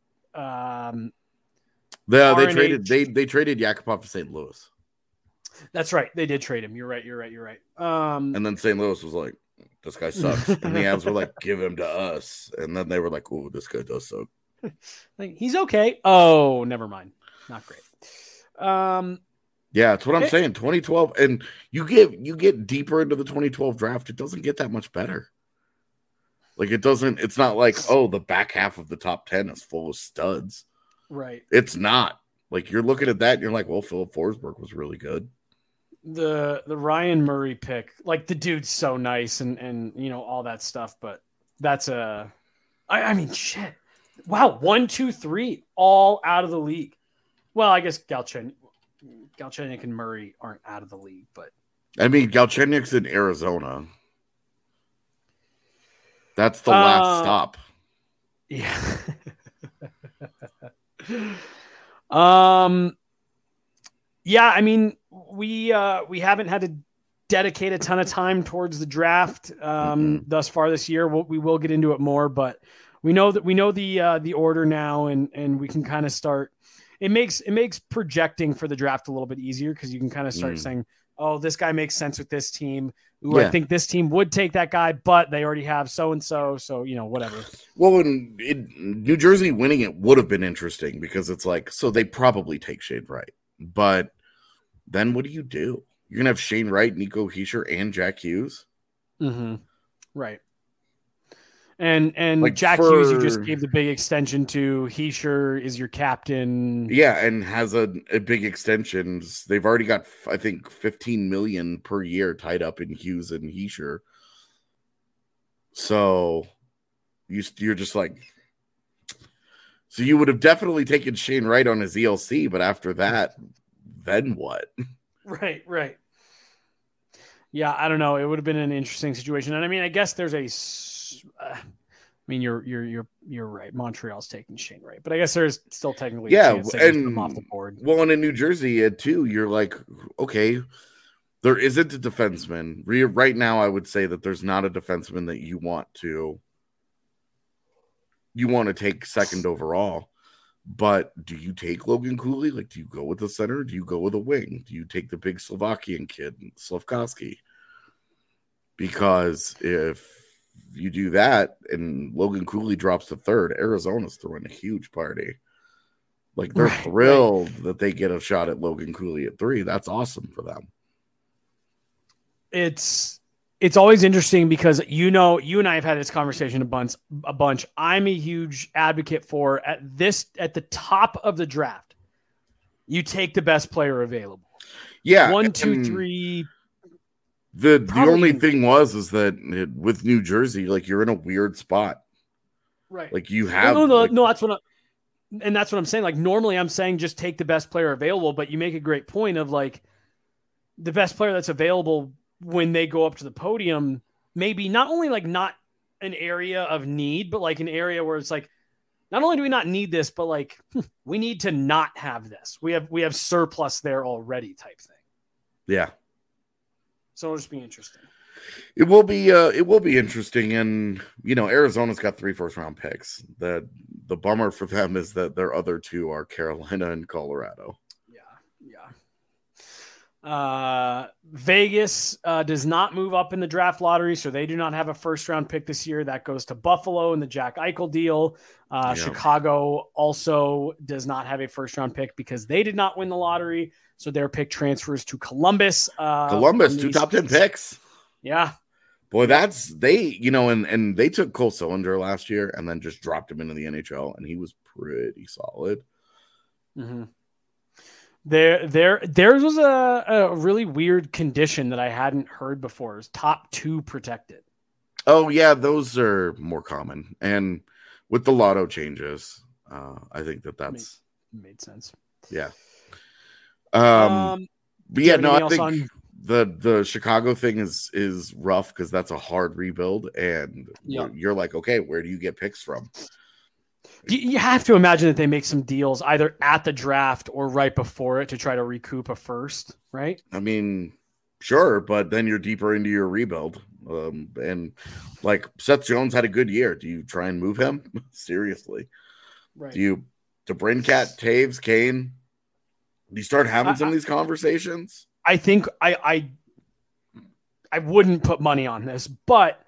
They traded Yakupov to St. Louis. That's right. They did trade him. You're right. And then St. Louis was like, this guy sucks. And the Avs were like, give him to us. And then they were like, oh, this guy does suck. Like, he's okay. Oh, never mind. Not great. Yeah, that's what I'm saying. 2012. And you get deeper into the 2012 draft, it doesn't get that much better. Like, it's not like, oh, the back half of the top 10 is full of studs. Right. It's not. Like, you're looking at that and you're like, well, Philip Forsberg was really good. The Ryan Murray pick, like, the dude's so nice and all that stuff, but that's I mean, shit. Wow, 1, 2, 3, all out of the league. Well, I guess Galchenyuk and Murray aren't out of the league, but I mean, Galchenyuk's in Arizona. That's the last stop. Yeah. Yeah, I mean, we haven't had to dedicate a ton of time towards the draft thus far this year. We will get into it more, but we know the order now, and we can kind of start. It makes projecting for the draft a little bit easier because you can kind of start saying, oh, this guy makes sense with this team. Ooh, yeah. I think this team would take that guy, but they already have so-and-so, so, whatever. Well, in New Jersey winning it would have been interesting because it's like, so they probably take Shane Wright, but then what do? You're gonna have Shane Wright, Nico Hischier, and Jack Hughes. Mm-hmm. Right. And Like Jack Hughes, you just gave the big extension to. Hischier is your captain. Yeah, and has a big extension. They've already got, I think, $15 million per year tied up in Hughes and Hischier. So you're just like, so you would have definitely taken Shane Wright on his ELC, but after that, then what? Right. Yeah, I don't know. It would have been an interesting situation, and I mean, I guess there's a. I mean, you're right. Montreal's taking Shane Wright, but I guess there's still technically a chance they just put him off the board. Well, and in New Jersey too, you're like, okay, there isn't a defenseman right now. I would say that there's not a defenseman that you want to take second overall. But do you take Logan Cooley? Like, do you go with the center? Do you go with a wing? Do you take the big Slovakian kid, Slavkovsky? Because if you do that and Logan Cooley drops to third, Arizona's throwing a huge party. Like, they're thrilled that they get a shot at Logan Cooley at 3. That's awesome for them. It's always interesting because, you and I have had this conversation a bunch. I'm a huge advocate for at the top of the draft, you take the best player available. Yeah. 1, 2, 3. The only thing is that with New Jersey, like, you're in a weird spot. Right. Like, you have no, that's what I'm saying. Like, normally I'm saying just take the best player available, but you make a great point of, like, the best player that's available when they go up to the podium, maybe not only like not an area of need, but like an area where it's like, not only do we not need this, but like we need to not have this. We have surplus there already type thing. Yeah. So it'll just be interesting. It will be interesting. And, Arizona's got 3 first-round picks. The bummer for them is that their other 2 are Carolina and Colorado. Vegas does not move up in the draft lottery, so they do not have a first-round pick this year. That goes to Buffalo in the Jack Eichel deal. Chicago also does not have a first-round pick because they did not win the lottery, so their pick transfers to Columbus. Columbus, 2 top 10 picks. Yeah. Boy, and they took Cole Cylinder last year and then just dropped him into the NHL, and he was pretty solid. Mm-hmm. Theirs was a really weird condition that I hadn't heard before. It was top 2 protected. Oh yeah, those are more common, and with the lotto changes, I think that's made sense. Yeah. But yeah, no, I think the Chicago thing is rough because that's a hard rebuild, and you're like, okay, where do you get picks from? You have to imagine that they make some deals either at the draft or right before it to try to recoup a first, right? I mean, sure, but then you're deeper into your rebuild. And like Seth Jones had a good year. Do you try and move him? Seriously. Right. Do you DeBrincat, Taves, Kane? Do you start having some of these conversations? I think I wouldn't put money on this, but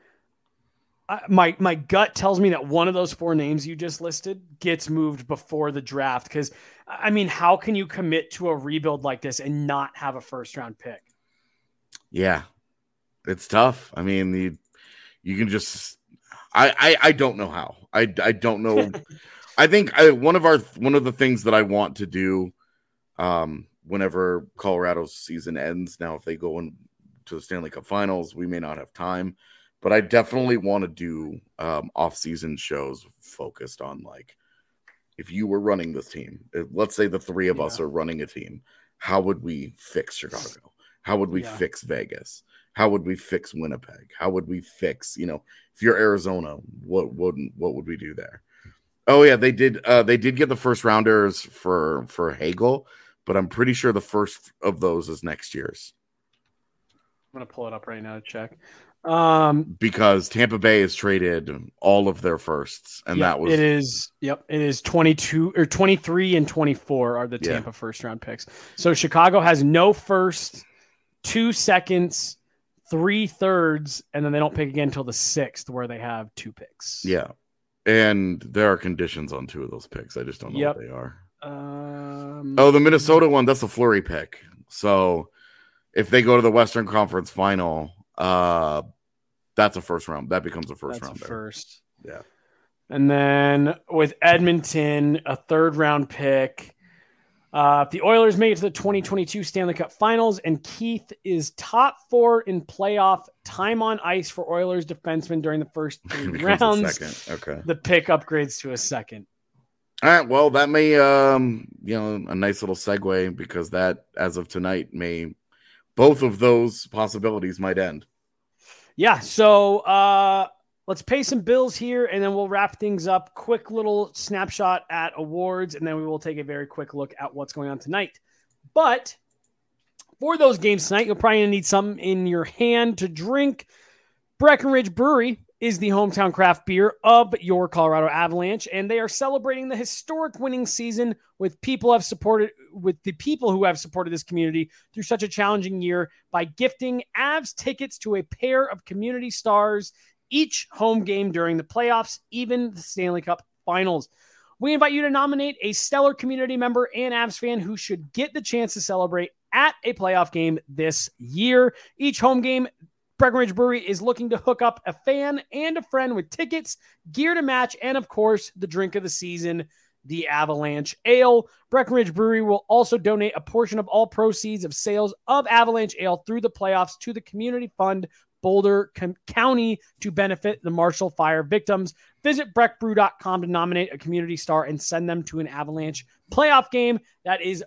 my gut tells me that one of those 4 names you just listed gets moved before the draft. Because, I mean, how can you commit to a rebuild like this and not have a first-round pick? Yeah, it's tough. I mean, you can just I don't know how. I don't know. I think one of the things that I want to do whenever Colorado's season ends, now if they go into the Stanley Cup Finals, we may not have time. But I definitely want to do off-season shows focused on, like, if you were running this team, let's say the 3 of us are running a team, how would we fix Chicago? How would we fix Vegas? How would we fix Winnipeg? How would we fix, if you're Arizona, what would we do there? Oh yeah, they did get the first rounders for Hagel, but I'm pretty sure the first of those is next year's. I'm gonna pull it up right now to check. Because Tampa Bay has traded all of their firsts, and that was it is 22 or 23 and 24 are the Tampa first round picks. So Chicago has no first, 2 seconds, 3 thirds, and then they don't pick again until the 6th, where they have 2 picks. Yeah, and there are conditions on 2 of those picks. I just don't know what they are. The Minnesota one, that's a Fleury pick. So if they go to the Western Conference Final, that's a first round. That becomes a first round. First. Yeah. And then with Edmonton, a third round pick. If the Oilers make it to the 2022 Stanley Cup Finals and Keith is top 4 in playoff time on ice for Oilers defensemen during the first 3 rounds, okay, the pick upgrades to a second. All right. Well, that may, a nice little segue, because that, as of tonight, both of those possibilities might end. Yeah. So let's pay some bills here, and then we'll wrap things up. Quick little snapshot at awards, and then we will take a very quick look at what's going on tonight. But for those games tonight, you'll probably need something in your hand to drink. Breckenridge Brewery is the hometown craft beer of your Colorado Avalanche, and they are celebrating the historic winning season with the people who have supported this community through such a challenging year by gifting Avs tickets to a pair of community stars each home game during the playoffs, even the Stanley Cup Finals. We invite you to nominate a stellar community member and Avs fan who should get the chance to celebrate at a playoff game this year. Each home game, Breckenridge Brewery is looking to hook up a fan and a friend with tickets, gear to match, and of course, the drink of the season, the Avalanche Ale. Breckenridge Brewery will also donate a portion of all proceeds of sales of Avalanche Ale through the playoffs to the Community Fund Boulder County to benefit the Marshall Fire victims. Visit breckbrew.com to nominate a community star and send them to an Avalanche playoff game. That is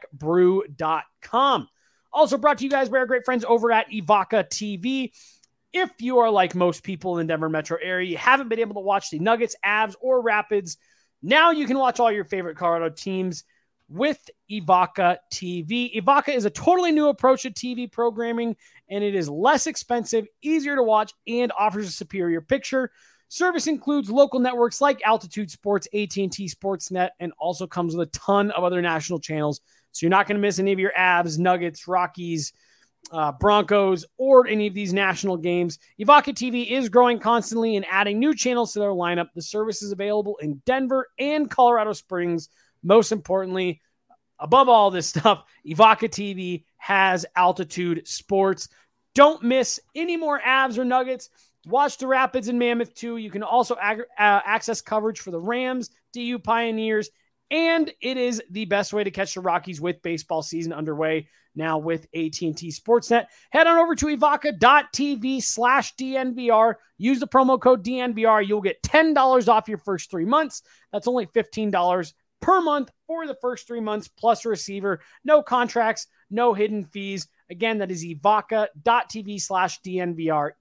breckbrew.com. Also brought to you guys by our great friends over at Evoca TV. If you are like most people in the Denver metro area, you haven't been able to watch the Nuggets, Avs, or Rapids, now you can watch all your favorite Colorado teams with Evoca TV. Evoca is a totally new approach to TV programming, and it is less expensive, easier to watch, and offers a superior picture. Service includes local networks like Altitude Sports, AT&T Sportsnet, and also comes with a ton of other national channels. So you're not going to miss any of your Avs, Nuggets, Rockies, Broncos, or any of these national games. Evoca TV is growing constantly and adding new channels to their lineup. The service is available in Denver and Colorado Springs. Most importantly, above all this stuff, Evoca TV has Altitude Sports. Don't miss any more Avs or Nuggets. Watch the Rapids and Mammoth too. You can also access coverage for the Rams, DU Pioneers, and it is the best way to catch the Rockies with baseball season underway now with AT&T Sportsnet. Head on over to evoca.tv/DNVR. Use the promo code DNVR. You'll get $10 off your first 3 months. That's only $15 per month for the first 3 months plus a receiver. No contracts, no hidden fees. Again, that is evoca.tv/DNVR,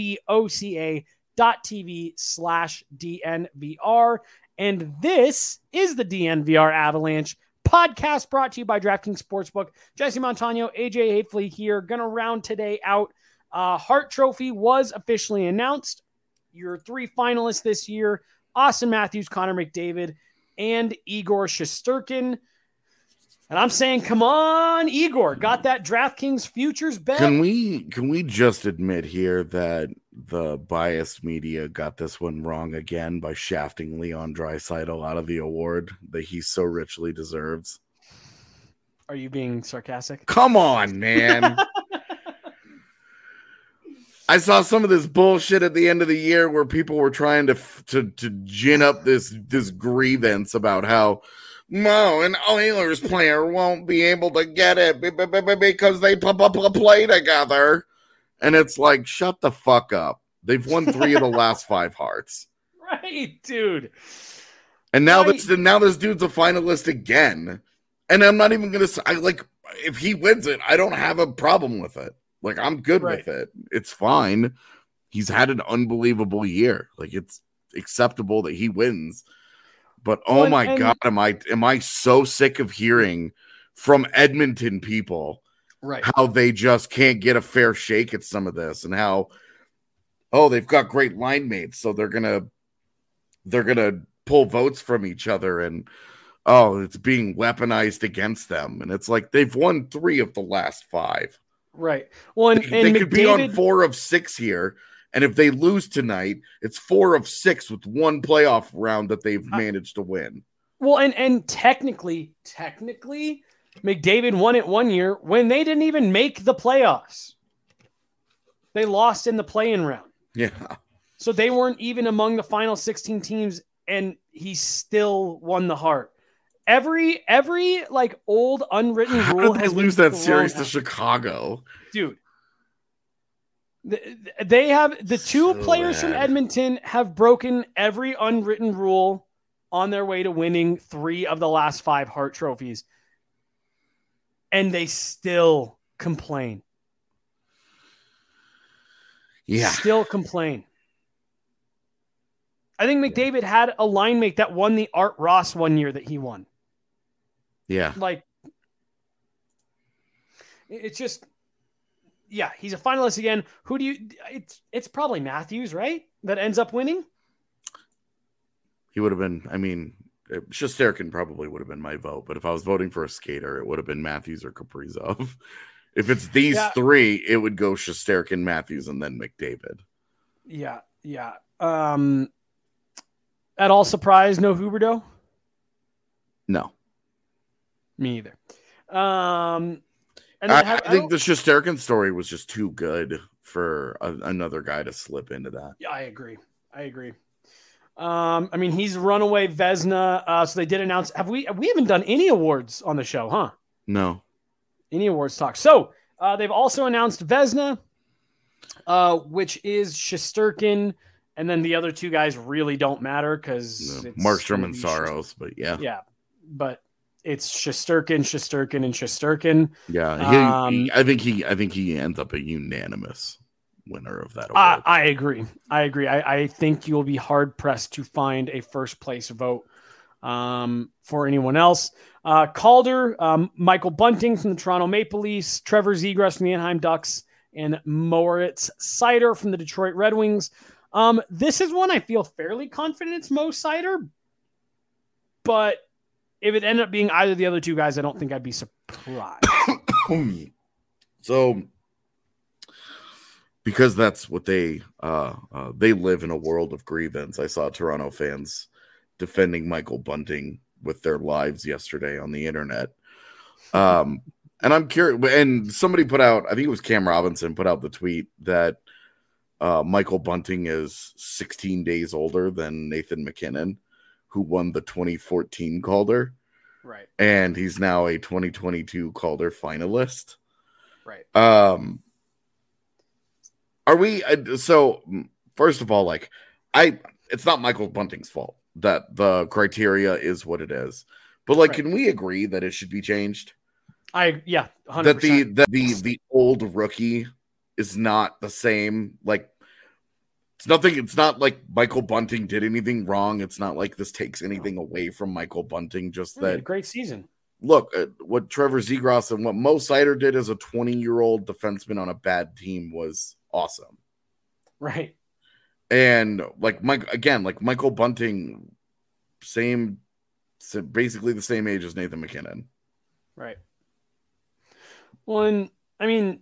evoca.tv/DNVR. And this is the DNVR Avalanche podcast brought to you by DraftKings Sportsbook. Jesse Montano, AJ Hafley here. Going to round today out. Hart Trophy was officially announced. Your 3 finalists this year, Austin Matthews, Connor McDavid, and Igor Shesterkin. And I'm saying, come on, Igor. Got that DraftKings futures bet. Can we just admit here that the biased media got this one wrong again by shafting Leon Draisaitl out of the award that he so richly deserves? Are you being sarcastic? Come on, man. I saw some of this bullshit at the end of the year where people were trying to gin up this grievance about how an Oilers player won't be able to get it because they play together. And it's like, shut the fuck up. They've won 3 of the last 5 Hearts. Right, dude. And now this dude's a finalist again. And I'm not even going to if he wins it, I don't have a problem with it. Like, I'm good with it. It's fine. He's had an unbelievable year. Like, it's acceptable that he wins. But oh my God, am I so sick of hearing from Edmonton people how they just can't get a fair shake at some of this, and how they've got great line mates, so they're gonna pull votes from each other, and it's being weaponized against them. And it's like, they've won 3 of the last 5. Right. Well, they could be on 4 of 6 here. And if they lose tonight, it's 4 of 6 with 1 playoff round that they've managed to win. Well, and technically, McDavid won it one year when they didn't even make the playoffs. They lost in the play-in round. Yeah. So they weren't even among the final 16 teams, and he still won the Hart. Every like old unwritten rule. How did they lose that series to Chicago? Dude. They have the two players from Edmonton have broken every unwritten rule on their way to winning 3 of the last 5 Hart trophies. And they still complain. Yeah. Still complain. I think McDavid had a line mate that won the Art Ross one year that he won. Yeah. Like, it's just, yeah, he's a finalist again. Who do you, it's probably Matthews, right? That ends up winning. He would have been, I mean, Shesterkin probably would have been my vote, but if I was voting for a skater, it would have been Matthews or Kaprizov. If it's these 3, it would go Shesterkin, Matthews, and then McDavid. Yeah. At all surprised, no Huberdeau? No. Me either. I think the Shesterkin story was just too good for another guy to slip into that. Yeah, I agree. I mean, he's runaway Vezina. So they did announce. We haven't done any awards on the show, huh? No. Any awards talk. So they've also announced Vezina, which is Shesterkin, and then the other 2 guys really don't matter because Markstrom and Saros, but yeah. Yeah, but it's Shesterkin, and Shesterkin. Yeah, I think he ends up a unanimous winner of that award. I agree. I think you'll be hard pressed to find a first place vote for anyone else. Calder, Michael Bunting from the Toronto Maple Leafs, Trevor Zegras from the Anaheim Ducks, and Moritz Seider from the Detroit Red Wings. This is one I feel fairly confident it's Mo Seider, but if it ended up being either of the other 2 guys, I don't think I'd be surprised. So, because that's what they live in a world of grievance. I saw Toronto fans defending Michael Bunting with their lives yesterday on the internet. And I'm curious, and somebody put out, I think it was Cam Robinson put out the tweet that Michael Bunting is 16 days older than Nathan MacKinnon, who won the 2014 Calder. Right. And he's now a 2022 Calder finalist. Right. Are we, so first of all, like, it's not Michael Bunting's fault that the criteria is what it is, but like, can we agree that it should be changed? 100%. That the old rookie is not the same. Like, it's not like Michael Bunting did anything wrong. It's not like this takes anything away from Michael Bunting. Just that great season. Look, what Trevor Zegras and what Mo Seider did as a 20-year-old defenseman on a bad team was awesome. Right. And like Michael Bunting, basically the same age as Nathan MacKinnon. Right. Well, and I mean,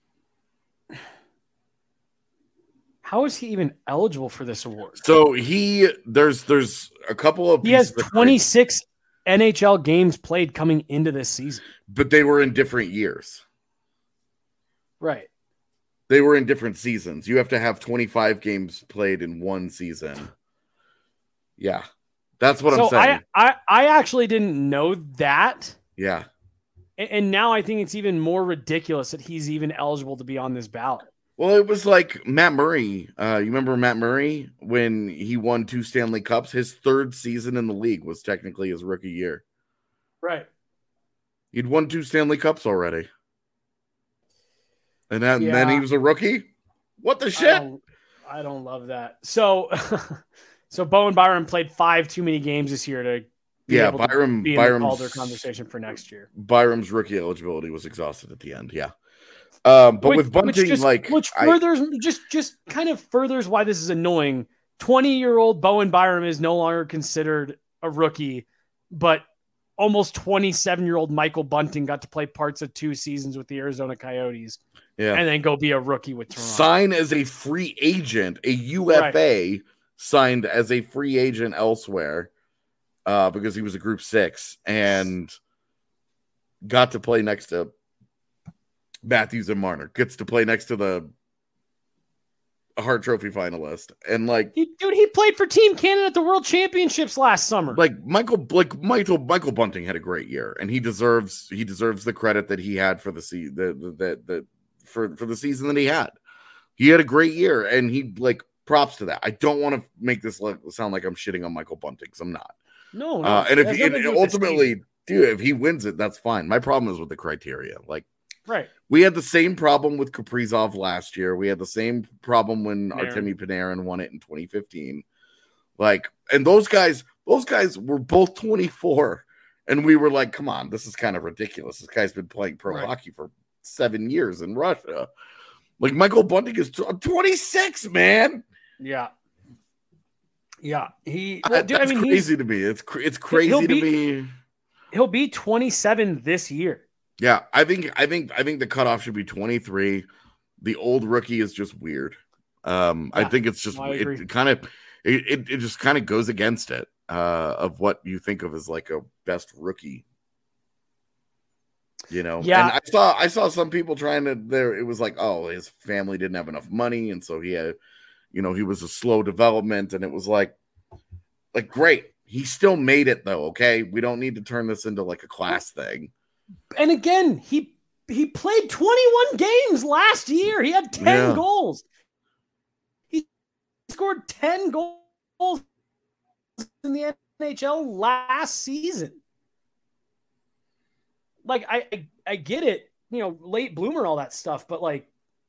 how is he even eligible for this award? So there's a couple of, he has 26 NHL games played coming into this season, but they were in different years. Right. They were in different seasons. You have to have 25 games played in one season. Yeah. That's what I'm saying. I actually didn't know that. Yeah. And now I think it's even more ridiculous that he's even eligible to be on this ballot. Well, it was like Matt Murray. You remember Matt Murray when he won 2 Stanley Cups? His 3rd season in the league was technically his rookie year. Right. He'd won 2 Stanley Cups already. And then he was a rookie? What the shit? I don't love that. So Bowen Byram played 5 too many games this year to be able to be in the Calder conversation for next year. Byram's rookie eligibility was exhausted at the end, yeah. But with Bunting, which furthers just kind of furthers why this is annoying. 20-year-old Bowen Byram is no longer considered a rookie, but almost 27-year-old Michael Bunting got to play parts of 2 seasons with the Arizona Coyotes, and then go be a rookie with Toronto. Sign as a free agent, a UFA signed as a free agent elsewhere because he was a Group 6, and got to play next to Matthews and Marner, gets to play next to the Hart Trophy finalist, and like, he played for Team Canada at the World Championships last summer. Michael Bunting had a great year, and he deserves the credit that he had for the the season that he had. He had a great year, and he props to that. I don't want to make this sound like I'm shitting on Michael Bunting, because I'm not. No. And if ultimately, dude, if he wins it, that's fine. My problem is with the criteria. Right. We had the same problem with Kaprizov last year. We had the same problem when Artemi Panarin won it in 2015. And those guys were both 24, and we were like, come on, this is kind of ridiculous. This guy's been playing pro hockey for 7 years in Russia. Michael Bunting is 26, man. Yeah. Yeah. That's crazy to me. It's crazy to me. He'll be 27 this year. Yeah, I think the cutoff should be 23. The old rookie is just weird. I think it's just it just kind of goes against it of what you think of as a best rookie. Yeah. And I saw some people trying to there. It was oh, his family didn't have enough money, and so he had, he was a slow development, and it was great. He still made it though. Okay, we don't need to turn this into a class thing. And again, he played 21 games last year. He had 10 goals. He scored 10 goals in the NHL last season. I get it, late bloomer, all that stuff, but where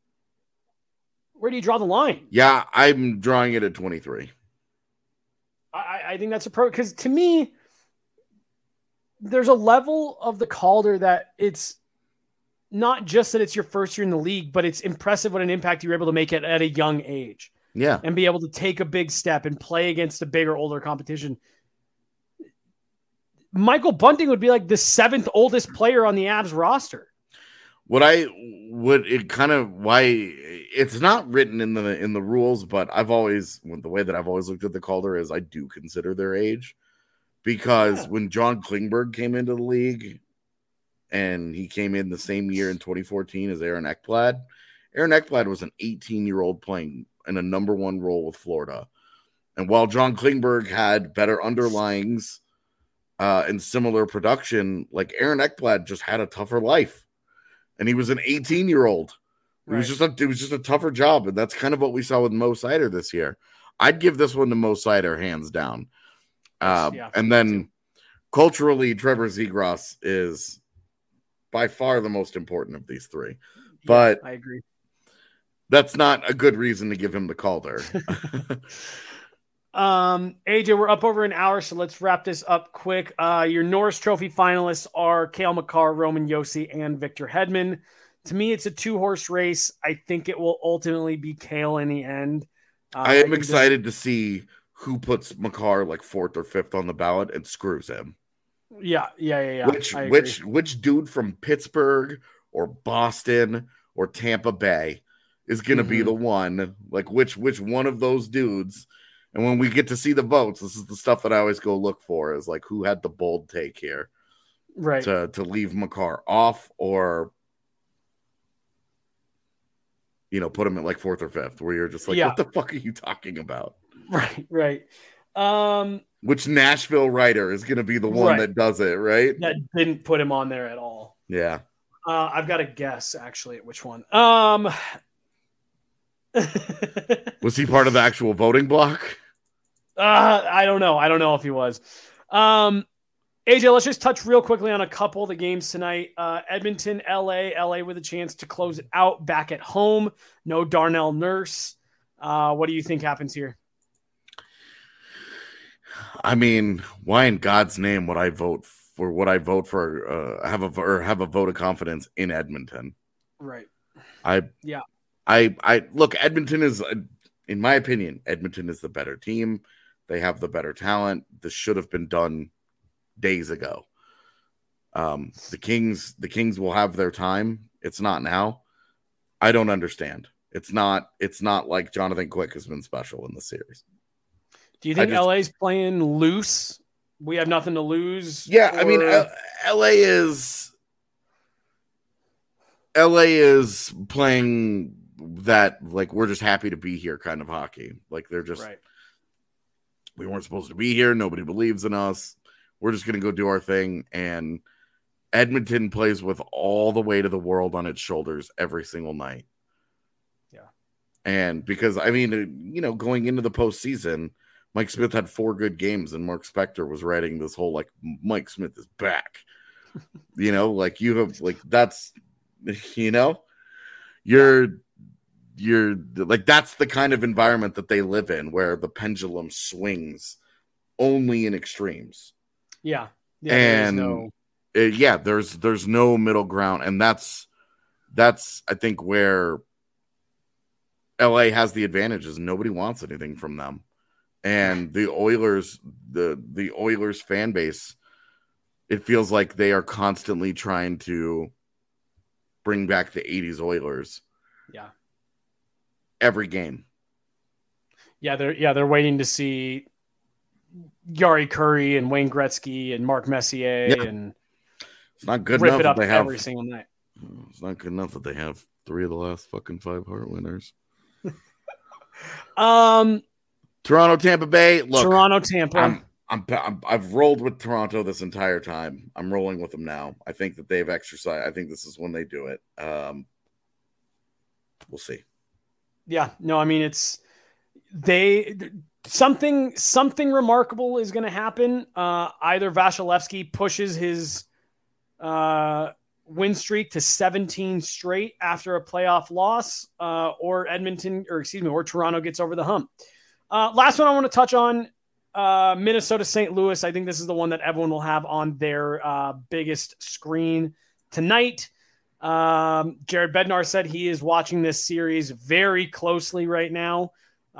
do you draw the line? Yeah, I'm drawing it at 23. I think that's because to me, there's a level of the Calder that it's not just that it's your first year in the league, but it's impressive what an impact you're able to make at a young age. Yeah. And be able to take a big step and play against a bigger, older competition. Michael Bunting would be the 7th oldest player on the Avs roster. Why it's not written in the rules, but the way that I've always looked at the Calder is I do consider their age. Because when John Klingberg came into the league, and he came in the same year in 2014 as Aaron Ekblad was an 18-year-old playing in a number 1 role with Florida. And while John Klingberg had better underlyings and similar production, Aaron Ekblad just had a tougher life. And he was an 18-year-old. It was just a tougher job. And that's kind of what we saw with Mo Seider this year. I'd give this one to Mo Seider hands down. And then culturally, Trevor Zegras is by far the most important of these three. But I agree. That's not a good reason to give him the Calder. AJ, we're up over an hour, so let's wrap this up quick. Your Norris Trophy finalists are Cale Makar, Roman Josi, and Victor Hedman. To me, it's a 2-horse race. I think it will ultimately be Cale in the end. I am excited to see who puts Makar 4th or 5th on the ballot and screws him. Yeah. Which dude from Pittsburgh or Boston or Tampa Bay is going to be the one? Which one of those dudes? And when we get to see the votes, this is the stuff that I always go look for, is who had the bold take here, right? To leave Makar off or put him at 4th or 5th, where you're just what the fuck are you talking about? Right. Which Nashville writer is going to be the one that does it, right? That didn't put him on there at all. Yeah. I've got a guess actually at which one. Was he part of the actual voting block? I don't know. I don't know if he was. AJ, let's just touch real quickly on a couple of the games tonight. Edmonton, LA with a chance to close it out back at home. No Darnell Nurse. What do you think happens here? I mean, why in God's name would I vote for have a vote of confidence in Edmonton? Right. I look, Edmonton is, in my opinion, Edmonton is the better team. They have the better talent. This should have been done days ago. The Kings will have their time. It's not now. I don't understand. It's not like Jonathan Quick has been special in the series. Do you think LA's playing loose? We have nothing to lose. Yeah, I mean, LA is LA is playing that, like, we're just happy to be here kind of hockey. Like, they're just, Right. We weren't supposed to be here. Nobody believes in us. We're just going to go do our thing. And Edmonton plays with all the weight of the world on its shoulders every single night. Yeah. And because, I mean, you know, going into the postseason, Mike Smith had 4 good games, and Mark Spector was writing this whole, like, Mike Smith is back. You know, like, you have, like, that's, you know, you're like, that's the kind of environment that they live in, where the pendulum swings only in extremes. Yeah. And there's no middle ground. And that's I think where LA has the advantage, is nobody wants anything from them. And the Oilers, the Oilers fan base, it feels like they are constantly trying to bring back the 80s Oilers. Yeah. Every game. Yeah, they're waiting to see Yari Curry and Wayne Gretzky and Mark Messier and it's not good rip enough it up that they have every single night. It's not good enough that they have 3 of the last fucking 5 Hart winners. Toronto, Tampa Bay. Look, Toronto, Tampa. I've rolled with Toronto this entire time. I'm rolling with them now. I think that they've exercised. I think this is when they do it. We'll see. Yeah, no, I mean, it's something remarkable is going to happen. Either Vasilevsky pushes his win streak to 17 straight after a playoff loss, or Toronto gets over the hump. Last one I want to touch on, Minnesota St. Louis. I think this is the one that everyone will have on their biggest screen tonight. Jared Bednar said he is watching this series very closely right now.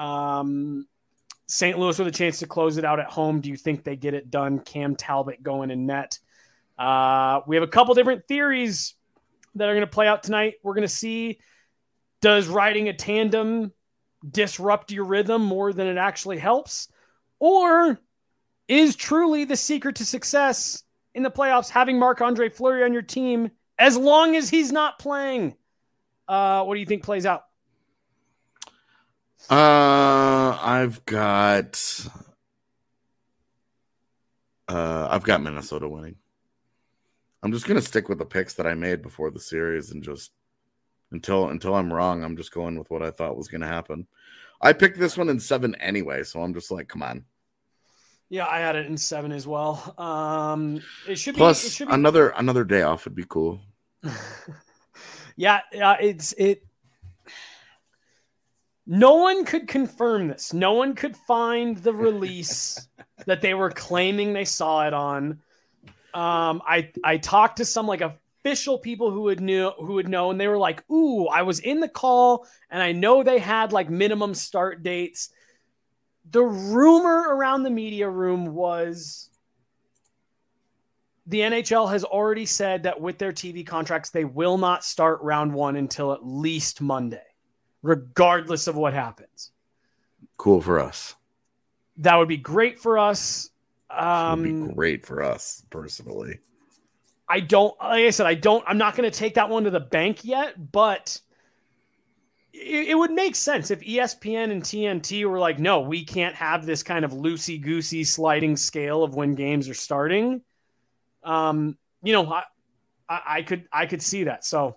St. Louis with a chance to close it out at home. Do you think they get it done? Cam Talbot going in net. We have a couple different theories that are going to play out tonight. We're going to see, does riding a tandem disrupt your rhythm more than it actually helps? Or is truly the secret to success in the playoffs having Marc-Andre Fleury on your team as long as he's not playing? What do you think plays out? I've got Minnesota winning. I'm just gonna stick with the picks that I made before the series, and just until I'm wrong, I'm just going with what I thought was gonna happen. I picked this one in 7 anyway, so I'm just like, come on. Yeah, I had it in 7 as well. It should be another day off would be cool. Yeah, no one could confirm this. No one could find the release that they were claiming they saw it on. I talked to some like official people who would know, and they were like, "Ooh, I was in the call, and I know they had like minimum start dates." The rumor around the media room was the NHL has already said that with their TV contracts, they will not start round 1 until at least Monday, regardless of what happens. Cool for us. That would be great for us. Would be great for us personally. I'm not going to take that one to the bank yet, but it would make sense if ESPN and TNT were like, no, we can't have this kind of loosey-goosey sliding scale of when games are starting. I could see that. So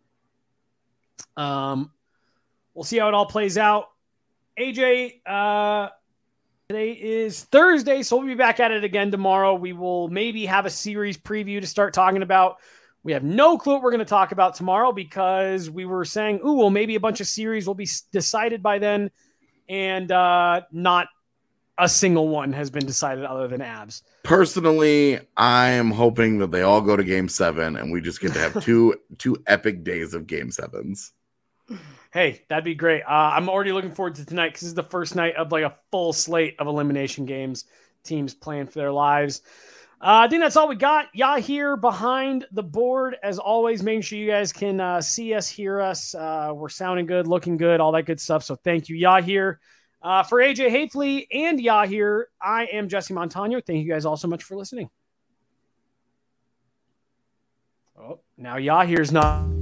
we'll see how it all plays out. AJ, today is Thursday, so we'll be back at it again tomorrow. We will maybe have a series preview to start talking about. We have no clue what we're going to talk about tomorrow, because we were saying, maybe a bunch of series will be decided by then, and not a single one has been decided other than Abs. Personally, I am hoping that they all go to Game 7, and we just get to have two epic days of Game 7s. Hey, that'd be great. I'm already looking forward to tonight, because this is the first night of like a full slate of elimination games, teams playing for their lives. I think that's all we got. Yahir behind the board, as always, making sure you guys can see us, hear us. We're sounding good, looking good, all that good stuff. So thank you, Yahir. For AJ Hafley and Yahir, I am Jesse Montano. Thank you guys all so much for listening. Oh, now Yahir's not...